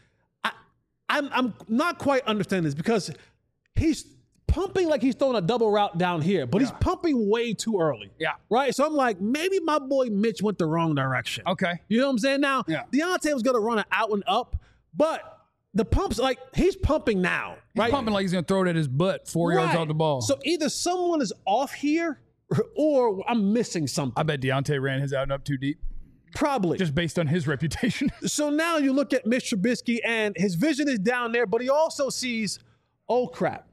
I'm not quite understanding this, because he's pumping like he's throwing a double route down here, but he's pumping way too early. Yeah. Right? So I'm like, maybe my boy Mitch went the wrong direction. Okay. You know what I'm saying? Now, Deontay was going to run it out and up, but the pump's like, he's pumping now, right? He's pumping like he's going to throw it at his butt 4 yards off the ball. So either someone is off here or I'm missing something. I bet Deontay ran his out and up too deep. Probably. Just based on his reputation. So now you look at Mitch Trubisky and his vision is down there, but he also sees, oh crap.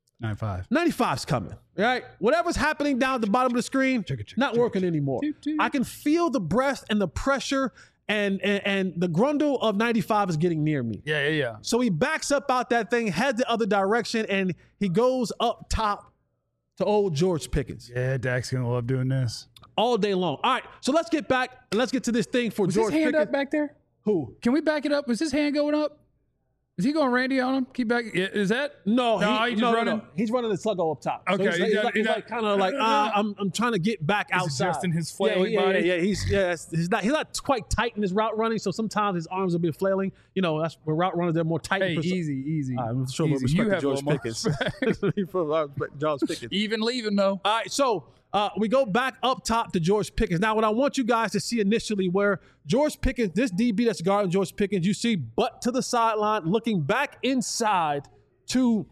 95's coming, right? Whatever's happening down at the bottom of the screen, not working anymore. I can feel the breath and the pressure and the grundle of 95 is getting near me. Yeah. So he backs up out that thing, heads the other direction, and he goes up top to old George Pickens. Yeah, Dak's going to love doing this. All day long. All right, so let's get back and let's get to this thing for George Pickens. Was his hand up back there? Who? Can we back it up? Was his hand going up? Is he going Randy on him? Keep back. Is that? No, he's just running. No. He's running the sluggo up top. Okay, so he's like kind of like I'm trying to get back outside. Adjusting his flailing body. Yeah. He's not quite tight in his route running, so sometimes his arms will be flailing. You know, that's where route runners they're more tight. Hey, easy. I'm sure we'll respect George Pickens. George Pickens. Even leaving though. All right, so we go back up top to George Pickens. Now, what I want you guys to see initially, where George Pickens, this DB that's guarding George Pickens, you see butt to the sideline, looking back inside to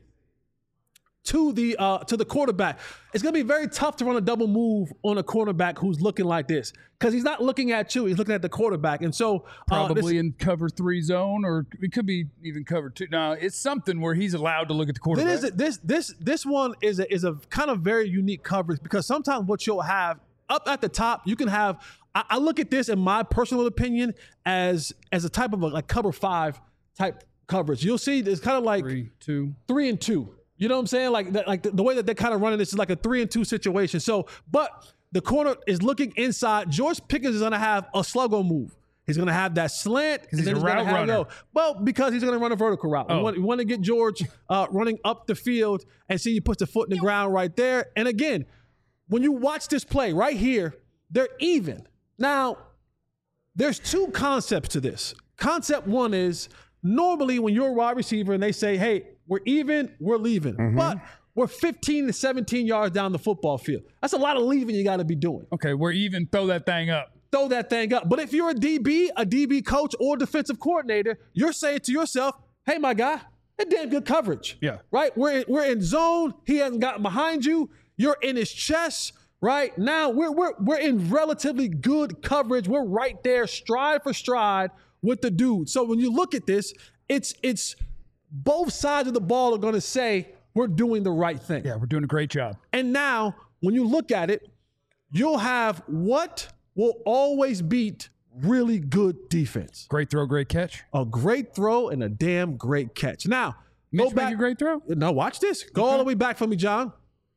the quarterback. It's going to be very tough to run a double move on a cornerback who's looking like this, because he's not looking at you, he's looking at the quarterback. And so probably in cover 3 zone, or it could be even cover 2. No, it's something where he's allowed to look at the quarterback. This one is a kind of very unique coverage, because sometimes what you'll have up at the top, you can have, I look at this in my personal opinion as a type of like cover 5 type coverage. You'll see it's kind of like 3 and 2. You know what I'm saying? Like the way that they're kind of running this is like a 3 and 2 situation. So, but the corner is looking inside. George Pickens is going to have a sluggo move. He's going to have that slant. He's a route runner. Well, because he's going to run a vertical route. We want to get George running up the field, and see he puts the foot in the ground right there. And again, when you watch this play right here, they're even. Now, there's 2 concepts to this. Concept 1 is Normally, when you're a wide receiver and they say, hey, we're even, we're leaving. But we're 15 to 17 yards down the football field. That's a lot of leaving you got to be doing. Okay, we're even. Throw that thing up. Throw that thing up. But if you're a DB coach or defensive coordinator, you're saying to yourself, hey, my guy, that's damn good coverage. Yeah. Right? We're in zone. He hasn't gotten behind you. You're in his chest. Right? Now we're in relatively good coverage. We're right there, stride for stride with the dude. So when you look at this, it's both sides of the ball are going to say we're doing the right thing. Yeah, we're doing a great job. And now when you look at it, you'll have what will always beat really good defense. Great throw, great catch. A great throw and a damn great catch. Now, Mitch go back. make a great throw? No, watch this. Go all the way back for me, John.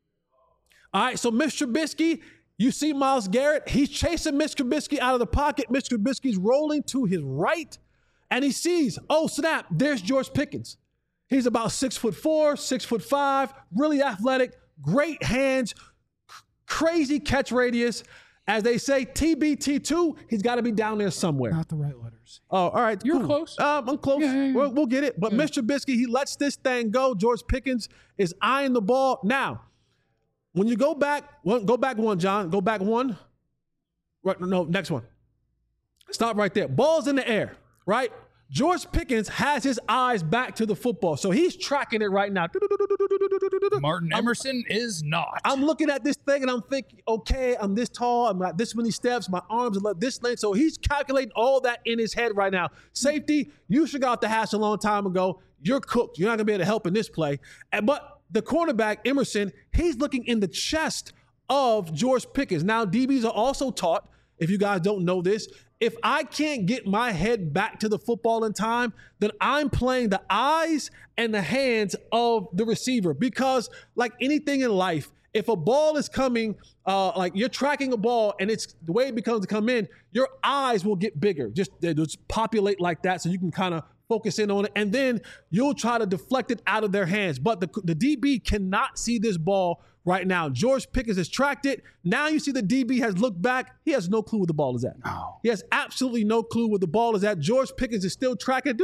All right, so Mitch Trubisky, you see Myles Garrett. He's chasing Mitch Trubisky out of the pocket. Mitch Trubisky's rolling to his right, and he sees, oh, snap, there's George Pickens. He's about 6'4", 6'5", really athletic, great hands, crazy catch radius. As they say, TBT2, he's got to be down there somewhere. Not the right letters. Oh, all right. You're cool. close. I'm close. Yeah. We'll get it. But Mr. Trubisky, he lets this thing go. George Pickens is eyeing the ball. Now, when you go back one, John. Go back one. Right, no, next one. Stop right there. Ball's in the air, right? George Pickens has his eyes back to the football, so he's tracking it right now. Martin Emerson is not. I'm looking at this thing and I'm thinking, okay, I'm this tall, I'm got this many steps, my arms are this length. So he's calculating all that in his head right now. Safety, you should got the hash a long time ago. You're cooked. You're not gonna be able to help in this play. But the cornerback, Emerson, he's looking in the chest of George Pickens. Now, DBs are also taught, if you guys don't know this, if I can't get my head back to the football in time, then I'm playing the eyes and the hands of the receiver. Because like anything in life, if a ball is coming, like you're tracking a ball and it's the way it becomes to come in, your eyes will get bigger. They just populate like that so you can kind of focus in on it. And then you'll try to deflect it out of their hands. But the DB cannot see this ball right now. George Pickens has tracked it. Now you see the DB has looked back. He has no clue where the ball is at. Oh. He has absolutely no clue where the ball is at. George Pickens is still tracking.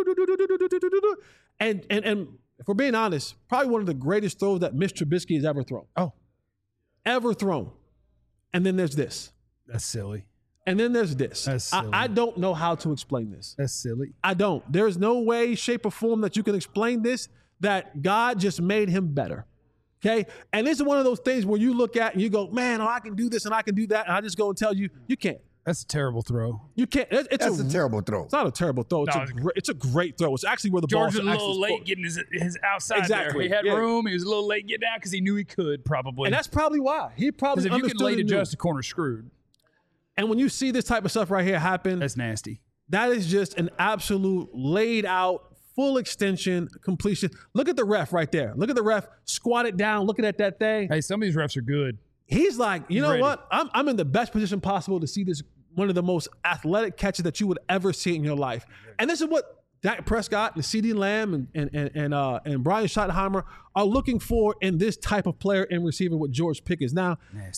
And if we're being honest, probably one of the greatest throws that Mitch Trubisky has ever thrown. Oh. Ever thrown. And then there's this. That's silly. And then there's this. That's silly. I don't know how to explain this. That's silly. I don't. There's no way, shape, or form that you can explain this, that God just made him better. Okay? And this is one of those things where you look at and you go, man, I can do this and I can do that. And I just go and tell you, you can't. That's a terrible throw. You can't. That's a terrible throw. It's not a terrible throw. It's a great throw. It's actually where the ball George was a little late getting his outside exactly. there. He had room. He was a little late getting out because he knew he could probably. And that's probably why. He probably understood. Because if you can late and adjust, the corner's screwed. And when you see this type of stuff right here happen, that's nasty. That is just an absolute laid out, full extension completion. Look at the ref right there. Look at the ref squatted down, looking at that thing. Hey, some of these refs are good. He's like, you know ready. what? I'm in the best position possible to see this, one of the most athletic catches that you would ever see in your life. And this is what Dak Prescott and CeeDee Lamb and Brian Schottenheimer are looking for in this type of player and receiver with George Pickens. Now,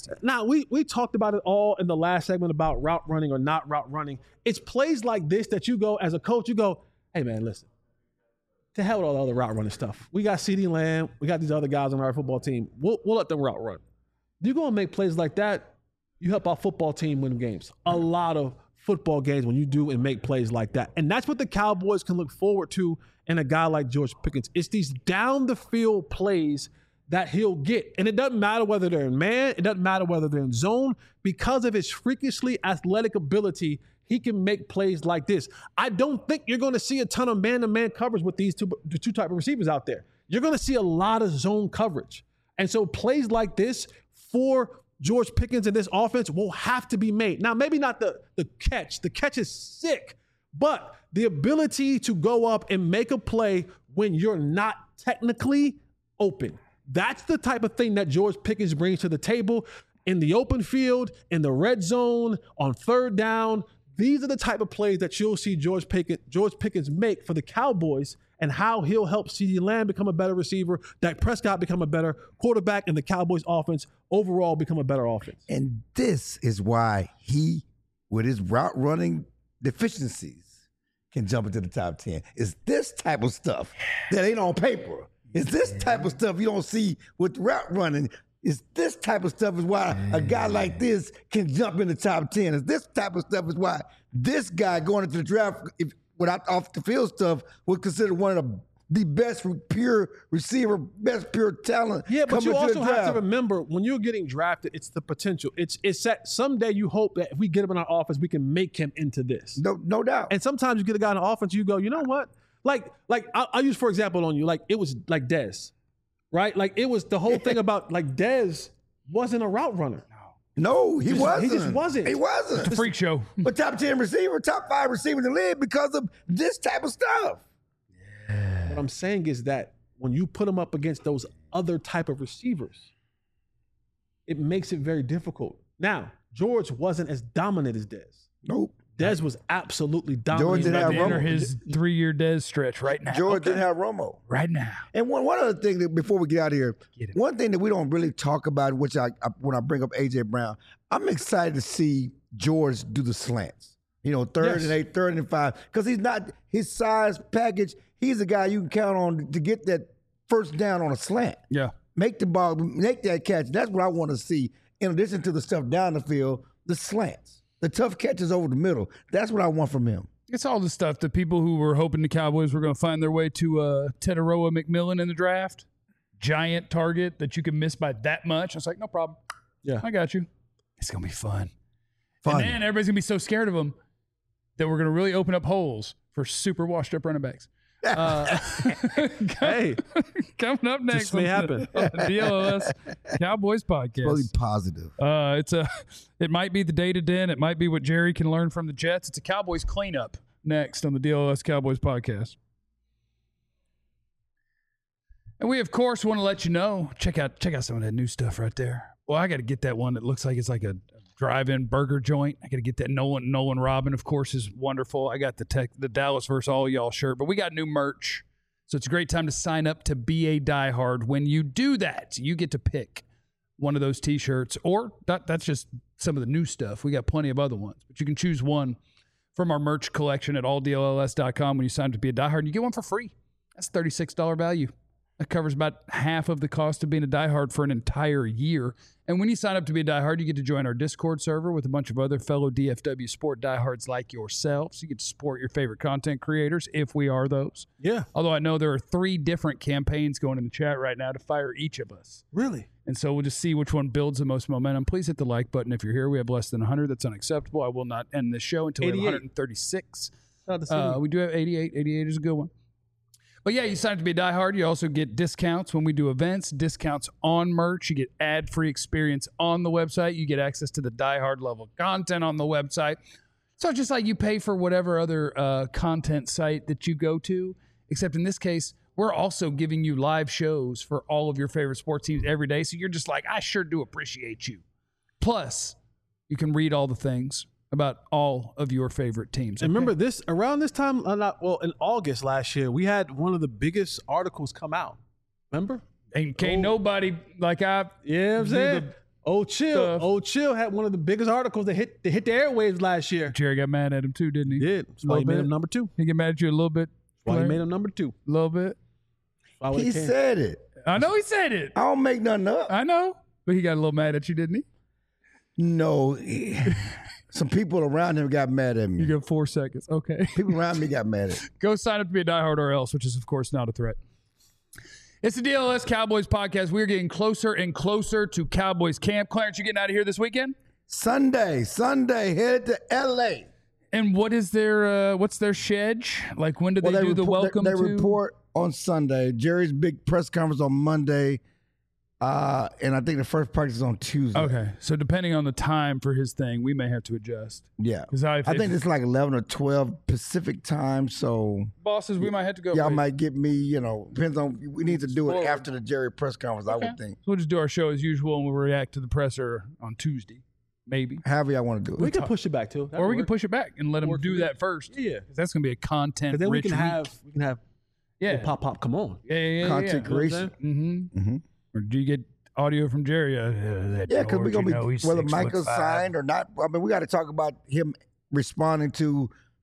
we talked about it all in the last segment about route running or not route running. It's plays like this that you go, as a coach, you go, hey, man, listen. To hell with all the other route running stuff. We got CeeDee Lamb. We got these other guys on our football team. We'll let them route run. You go and make plays like that, you help our football team win games. A lot of football games when you do and make plays like that. And that's what the Cowboys can look forward to in a guy like George Pickens. It's these down the field plays that he'll get. And it doesn't matter whether they're in man. It doesn't matter whether they're in zone. Because of his freakishly athletic ability, he can make plays like this. I don't think you're going to see a ton of man-to-man coverage with these two type of receivers out there. You're going to see a lot of zone coverage. And so plays like this for George Pickens in this offense will have to be made. Now, maybe not the catch. The catch is sick. But the ability to go up and make a play when you're not technically open. That's the type of thing that George Pickens brings to the table in the open field, in the red zone, on third down. These are the type of plays that you'll see George Pickens make for the Cowboys, and how he'll help CeeDee Lamb become a better receiver, Dak Prescott become a better quarterback, and the Cowboys offense overall become a better offense. And this is why he, with his route running deficiencies, can jump into the top 10. It's this type of stuff that ain't on paper. It's this type of stuff you don't see with route running. It's this type of stuff is why a guy like this can jump in the top 10. It's this type of stuff is why this guy going into the draft without off the field stuff was considered one of the best pure receiver, best pure talent. Yeah, but you also have to remember when you're getting drafted, it's the potential. It's that someday you hope that if we get him in our offense, we can make him into this. No doubt. And sometimes you get a guy in the offense, you go, you know what? Like I'll use for example on you, like it was like Dez, right? Like it was the whole thing about like Dez wasn't a route runner. No, he wasn't. He just wasn't. He wasn't. It's a freak show. But top 10 receiver, top 5 receiver in the league because of this type of stuff. What I'm saying is that when you put him up against those other type of receivers, it makes it very difficult. Now, George wasn't as dominant as Dez. Nope. Dez was absolutely dominant. George didn't have enter Romo. his 3-year Dez stretch right now. George didn't have Romo. Right now. And one other thing that before we get out of here, one thing that we don't really talk about, which when I bring up A.J. Brown, I'm excited to see George do the slants. You know, third and 8, third and 5, because he's not his size package. He's a guy you can count on to get that first down on a slant. Yeah. Make the ball, make that catch. That's what I want to see. In addition to the stuff down the field, the slants, the tough catches over the middle. That's what I want from him. It's all the stuff that people who were hoping the Cowboys were going to find their way to Teteroa McMillan in the draft. Giant target that you can miss by that much. I was like, no problem. Yeah. I got you. It's going to be fun. Fun. And then everybody's going to be so scared of him that we're going to really open up holes for super washed up running backs. Hey, coming up next this may happen. On the DLS Cowboys podcast. Really positive. It might be the day to den. It might be what Jerry can learn from the Jets. It's a Cowboys cleanup next on the DLS Cowboys podcast. And we of course want to let you know, check out some of that new stuff right there. Well, I got to get that one that looks like it's like a drive-in burger joint. I got to get that. Nolan Robin, of course, is wonderful. I got the Dallas versus all y'all shirt, but we got new merch. So it's a great time to sign up to be a diehard. When you do that, you get to pick one of those T-shirts, or that's just some of the new stuff. We got plenty of other ones, but you can choose one from our merch collection at alldlls.com. When you sign up to be a diehard, you get one for free. That's $36 value. That covers about half of the cost of being a diehard for an entire year. And when you sign up to be a diehard, you get to join our Discord server with a bunch of other fellow DFW Sport diehards like yourselves. You get to support your favorite content creators, if we are those. Yeah. Although I know there are 3 different campaigns going in the chat right now to fire each of us. Really? And so we'll just see which one builds the most momentum. Please hit the like button if you're here. We have less than 100. That's unacceptable. I will not end this show until we have 136. We do have 88. 88 is a good one. But yeah, you sign up to be a diehard. You also get discounts when we do events, discounts on merch. You get ad-free experience on the website. You get access to the diehard level content on the website. So it's just like you pay for whatever other content site that you go to, except in this case, we're also giving you live shows for all of your favorite sports teams every day. So you're just like, I sure do appreciate you. Plus, you can read all the things about all of your favorite teams. And remember this, around this time, in August last year, we had one of the biggest articles come out. Remember? And can't nobody like I. Yeah, I'm saying. Old Chill had one of the biggest articles that hit the airwaves last year. Jerry got mad at him too, didn't he? He did. That's why he made him number 2. He get mad at you a little bit. Why he made him number 2? A little bit. He said it. I know he said it. I don't make nothing up. I know. But he got a little mad at you, didn't he? No. Some people around him got mad at me. You got 4 seconds. Okay. People around me got mad at me. Go sign up to be a diehard or else, which is, of course, not a threat. It's the DLS Cowboys podcast. We're getting closer and closer to Cowboys camp. Clarence, you getting out of here this weekend? Sunday, headed to L.A. And what is their what's their schedule? Like, when do they do the welcome They to? report on Sunday. Jerry's big press conference on Monday. And I think the first practice is on Tuesday. Okay. So depending on the time for his thing, we may have to adjust. Yeah. I think it's like 11 or 12 Pacific time. So bosses, we might have to go. Y'all might get me, depends on, we need to do it after the Jerry press conference, I would think. So we'll just do our show as usual and we'll react to the presser on Tuesday. Maybe. However y'all want to do it. We can push it back too. Or we can push it back and let them do that first. Yeah. Because that's going to be a content then rich we can have pop come on. Yeah. Content creation. Mm-hmm. Or do you get audio from Jerry? Because we're going to be, whether Micah's signed or not. I mean, we got to talk about him responding to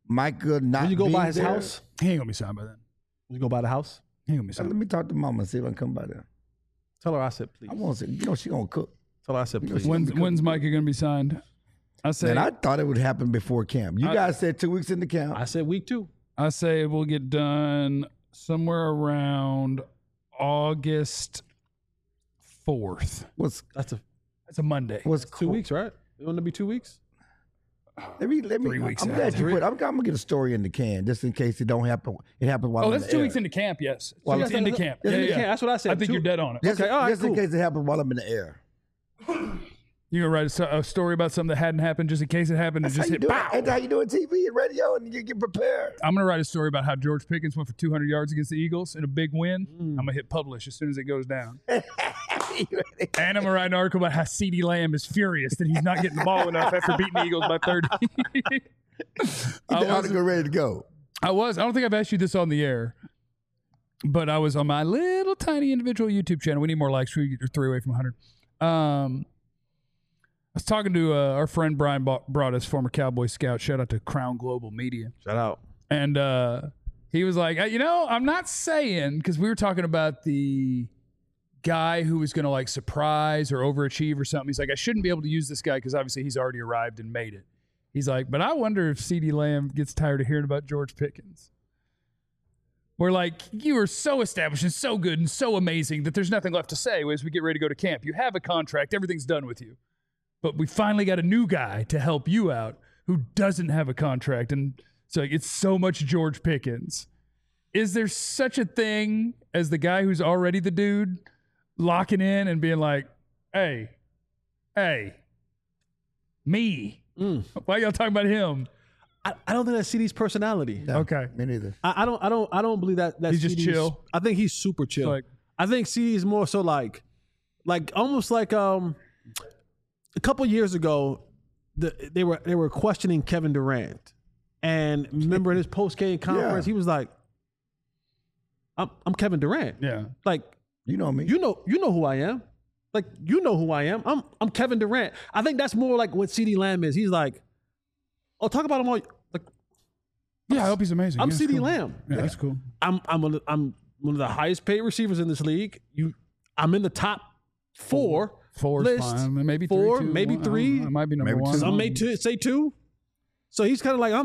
Micah not When you go being by his there. house, He ain't gonna be signed by then. when you go by the house, He ain't gonna be Let signed. me talk to Mama and see if I can come by there. tell her I said please. I want to say, she gonna cook. Tell her I said please. When's Micah gonna be signed? I say. And I thought it would happen before camp. You guys said 2 weeks into camp. I said week 2. I say we'll get done somewhere around August 4th. That's That's a Monday. What's 2 weeks, right? It want to be 2 weeks? Let me. 3 weeks I'm out. glad you put. I'm gonna get a story in the can just in case it don't happen. It happens while Oh, I'm that's in 2 the weeks air. into camp. Yes, Well, it's into camp. It's Yeah, in the yeah. camp. That's what I said. I think 2 you're dead on it. Just, Okay, all right, just in cool. case it happens while I'm in the air. You gonna write a story about something that hadn't happened just in case it happened and That's just how you hit do it. pow. That's how you do it. TV and radio, and you get prepared. I'm gonna write a story about how George Pickens went for 200 yards against the Eagles in a big win. I'm gonna hit publish as soon as it goes down. And I'm gonna write an article about how CeeDee Lamb is furious that he's not getting the ball enough after beating the Eagles by 30. The article ready to go. I don't think I've asked you this on the air, but I was on my little tiny individual YouTube channel. We need more likes. We're 3 away from 100. I was talking to our friend Brian brought us, former Cowboy scout. Shout out to Crown Global Media. Shout out. And he was like, I'm not saying, because we were talking about the guy who was going to like surprise or overachieve or something. He's like, I shouldn't be able to use this guy because obviously he's already arrived and made it. He's like, but I wonder if CeeDee Lamb gets tired of hearing about George Pickens. We're like, you are so established and so good and so amazing that there's nothing left to say as we get ready to go to camp. You have a contract. Everything's done with you. But we finally got a new guy to help you out who doesn't have a contract. And so it's so much George Pickens. Is there such a thing as the guy who's already the dude locking in and being like, hey, me? Why y'all talking about him? I don't think that's CeeDee's personality. No, Okay. me neither. I don't believe that. That's He's just CeeDee's- chill? I think he's super chill. Like- I think CeeDee is more so like almost like a couple years ago, they were questioning Kevin Durant, and remember in his post game conference, he was like, "I'm Kevin Durant." Yeah. Like You know me. you know who I am. Like you know who I am. I'm Kevin Durant. I think that's more like what CeeDee Lamb is. He's like, oh, talk about him all. Like Yeah, I hope he's amazing. I'm Yeah, CeeDee cool. Lamb. Yeah, that's cool. I'm one of the highest paid receivers in this league. I'm in the top 4 Four is list. fine. Maybe 3, 4, 2, maybe 1. 3. I might be number Maybe 1. two. Some may say 2. So he's kind of like,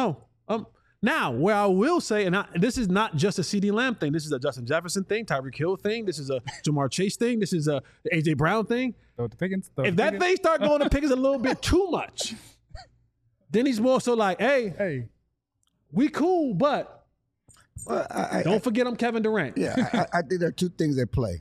now where I will say, and this is not just a CeeDee Lamb thing. This is a Justin Jefferson thing, Tyreek Hill thing. This is a Jamar Chase thing. This is a AJ Brown thing. Throw it to Pickens. If that thing start going to Pickens a little bit too much, then he's more so like, hey, we cool, but Well, don't forget I'm Kevin Durant. Yeah, I think there are two things at play.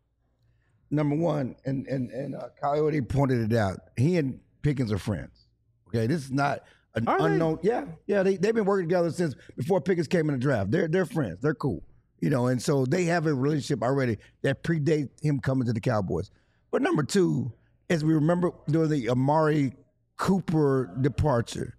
Number one, and Coyote pointed it out. He and Pickens are friends. Okay, this is not an Are they? unknown. Yeah, they've been working together since before Pickens came in the draft. They're friends. They're cool. And so they have a relationship already that predates him coming to the Cowboys. But number two, as we remember during the Amari Cooper departure,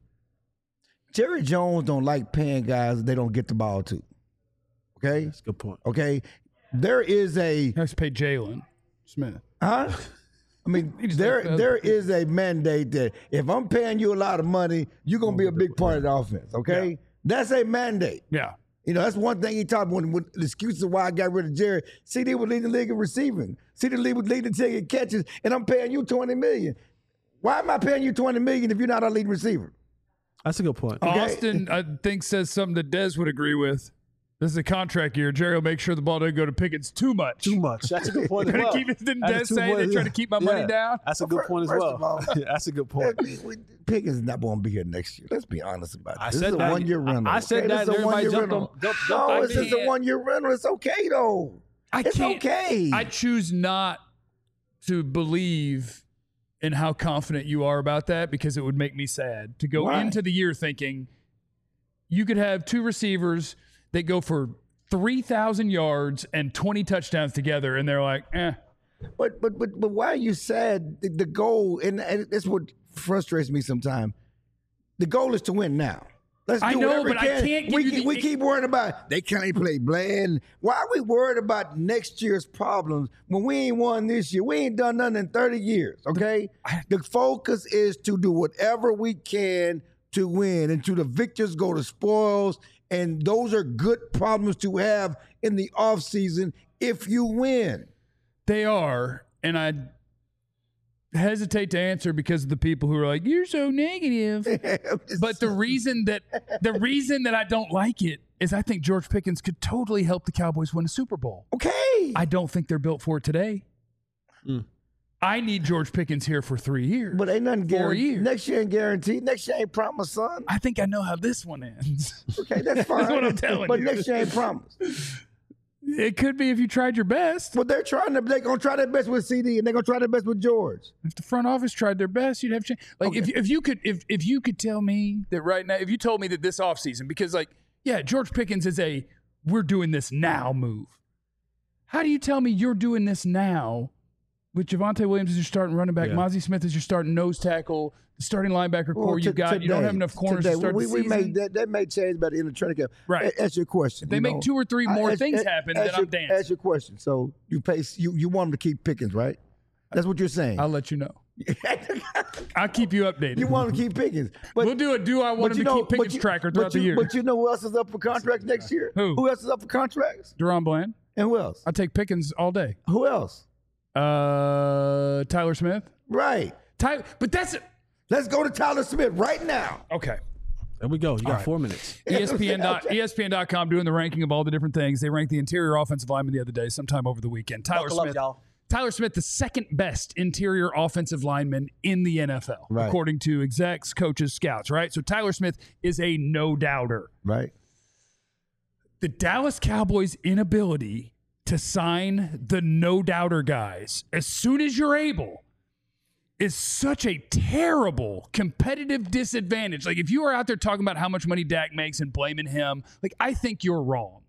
Jerry Jones don't like paying guys they don't get the ball to. Okay? That's a good point. Okay? There is a Let's pay Jalen Smith. huh? I mean, just there like- there is a mandate that if I'm paying you a lot of money, you're gonna be a big part of the offense. Okay? That's a mandate. Yeah. That's one thing he talked about when the excuses of why I got rid of Jerry. CD was leading the league in receiving. CD was leading the league in catches, and I'm paying you $20 million. Why am I paying you $20 million if you're not our lead receiver? That's a good point. Austin, I think, says something that Dez would agree with. This is a contract year. Jerry will make sure the ball doesn't go to Pickens too much. Too much. That's a good point as Trying well. to keep it- didn't That's a Des two say point- they're trying to keep my money down? That's a good point as First well. of all- That's a good point. Pickens is not going to be here next year. Let's be honest about it. I This said is a that. one-year rental. I said okay? that, This is and a everybody one-year jumped rental. on- jumped No, back it's just in. a one-year rental. It's okay, though. It's okay. I choose not to believe in how confident you are about that because it would make me sad to go Why? into the year thinking you could have two receivers that go for 3,000 yards and 20 touchdowns together, and they're like, But why are you sad? The goal, and that's what frustrates me sometimes. The goal is to win now. Let's do I know, whatever we but I can. can't give we, you the- we keep worrying about they can't play Bland. Why are we worried about next year's problems when we ain't won this year? We ain't done nothing in 30 years, okay? The focus is to do whatever we can to win, and to the victors go the spoils. And those are good problems to have in the offseason if you win. They are, and I hesitate to answer because of the people who are like, "You're so negative." But the reason that I don't like it is I think George Pickens could totally help the Cowboys win a Super Bowl. Okay. I don't think they're built for it today. I need George Pickens here for 3 years. But ain't nothing 4 guaranteed. years. Next year ain't guaranteed. Next year ain't promised, son. I think I know how this one ends. Okay, that's fine. That's what I'm telling but you. next year ain't promised. It could be if you tried your best. But they're going to try their best with CD, and they're going to try their best with George. If the front office tried their best, you'd have change. Like Okay. if you could tell me that right now, if you told me that this offseason, because George Pickens is a we're doing this now move. How do you tell me you're doing this now with Javonte Williams as your starting running back, Mozzie Smith as your starting nose tackle, the starting linebacker core you got? You don't have enough corners to start the season. That may change by the end of training camp. Right. Ask your question. If they make 2 or 3 more things happen, then I'm dancing. Ask your question. So you want them to keep Pickens, right? That's what you're saying. I'll let you know. I'll keep you updated. You want them to keep Pickens. But, We'll do a do I want him to keep Pickens tracker throughout the year. But you know who else is up for contracts next year? Who? Who else is up for contracts? Deron Bland. And who else? I'll take Pickens all day. Who else? Tyler Smith. Right. But that's it. Let's go to Tyler Smith right now. Okay. There we go. You got 4 minutes. ESPN.com doing the ranking of all the different things. They ranked the interior offensive lineman the other day, sometime over the weekend. Tyler Smith, the second best interior offensive lineman in the NFL, according to execs, coaches, scouts, right? So Tyler Smith is a no-doubter. Right. The Dallas Cowboys' inability to sign the no-doubter guys as soon as you're able is such a terrible competitive disadvantage. Like, if you are out there talking about how much money Dak makes and blaming him, I think you're wrong.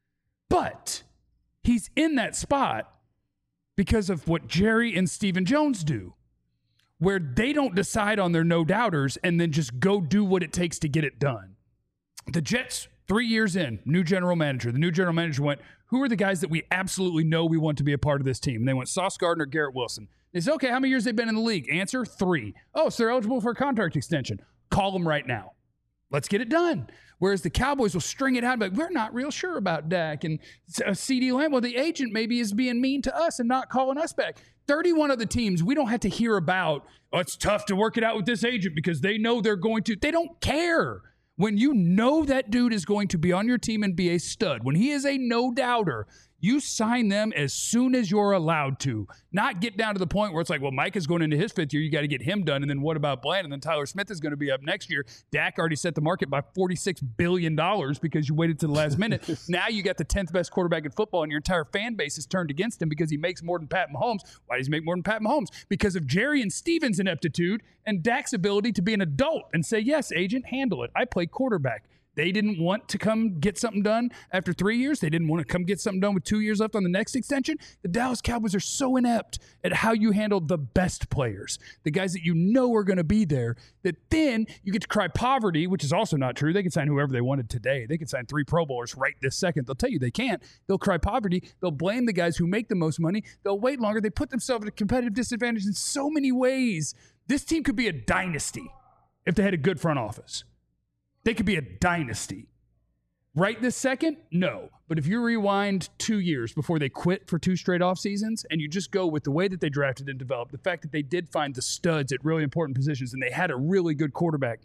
But he's in that spot because of what Jerry and Stephen Jones do, where they don't decide on their no-doubters and then just go do what it takes to get it done. The Jets, 3 years in, new general manager. The new general manager went, who are the guys that we absolutely know we want to be a part of this team? And they went Sauce Gardner, Garrett Wilson. They said, okay, how many years have they been in the league? Answer, 3. Oh, so they're eligible for a contract extension. Call them right now. Let's get it done. Whereas the Cowboys will string it out and be like, we're not real sure about Dak. And CeeDee Lamb, well, the agent maybe is being mean to us and not calling us back. 31 other teams, we don't have to hear about, it's tough to work it out with this agent because they know they're going to. They don't care. When you know that dude is going to be on your team and be a stud, when he is a no-doubter, you sign them as soon as you're allowed to. Not get down to the point where it's like, well, Mike is going into his 5th year. You got to get him done. And then what about Bland? And then Tyler Smith is going to be up next year. Dak already set the market by $46 billion because you waited to the last minute. Now you got the 10th best quarterback in football, and your entire fan base is turned against him because he makes more than Pat Mahomes. Why does he make more than Pat Mahomes? Because of Jerry and Steven's ineptitude and Dak's ability to be an adult and say, yes, agent, handle it. I play quarterback. They didn't want to come get something done after 3 years. They didn't want to come get something done with 2 years left on the next extension. The Dallas Cowboys are so inept at how you handle the best players, the guys that you know are going to be there, that then you get to cry poverty, which is also not true. They can sign whoever they wanted today. They can sign 3 Pro Bowlers right this second. They'll tell you they can't. They'll cry poverty. They'll blame the guys who make the most money. They'll wait longer. They put themselves at a competitive disadvantage in so many ways. This team could be a dynasty if they had a good front office. They could be a dynasty. Right this second? No. But if you rewind 2 years before they quit for 2 straight off seasons, and you just go with the way that they drafted and developed, the fact that they did find the studs at really important positions and they had a really good quarterback.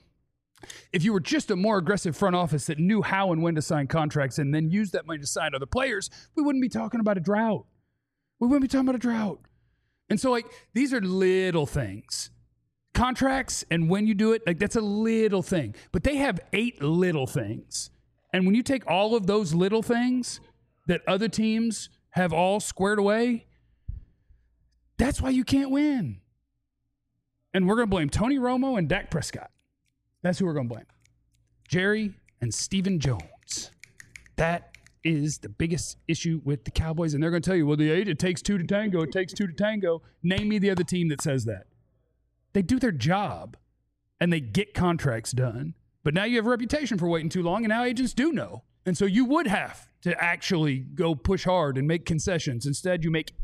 If you were just a more aggressive front office that knew how and when to sign contracts and then use that money to sign other players, we wouldn't be talking about a drought. We wouldn't be talking about a drought. And so, these are little things. Contracts and when you do it, that's a little thing. But they have 8 little things. And when you take all of those little things that other teams have all squared away, that's why you can't win. And we're going to blame Tony Romo and Dak Prescott. That's who we're going to blame. Jerry and Stephen Jones. That is the biggest issue with the Cowboys. And they're going to tell you, well, it takes 2 to tango. It takes 2 to tango. Name me the other team that says that. They do their job, and they get contracts done. But now you have a reputation for waiting too long, and now agents do know. And so you would have to actually go push hard and make concessions. Instead, you make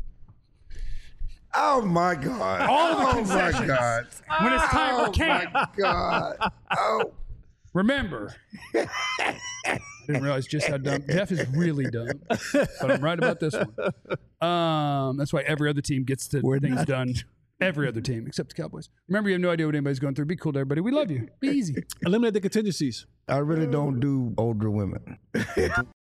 Oh, my God. all the concessions. Oh, my God. When it's time for Oh, camp. my God. Oh. Remember, I didn't realize just how dumb. Jeff is really dumb, but I'm right about this one. That's why every other team gets the things done. Every other team except the Cowboys. Remember, you have no idea what anybody's going through. Be cool to everybody. We love you. Be easy. Eliminate the contingencies. I really don't do older women.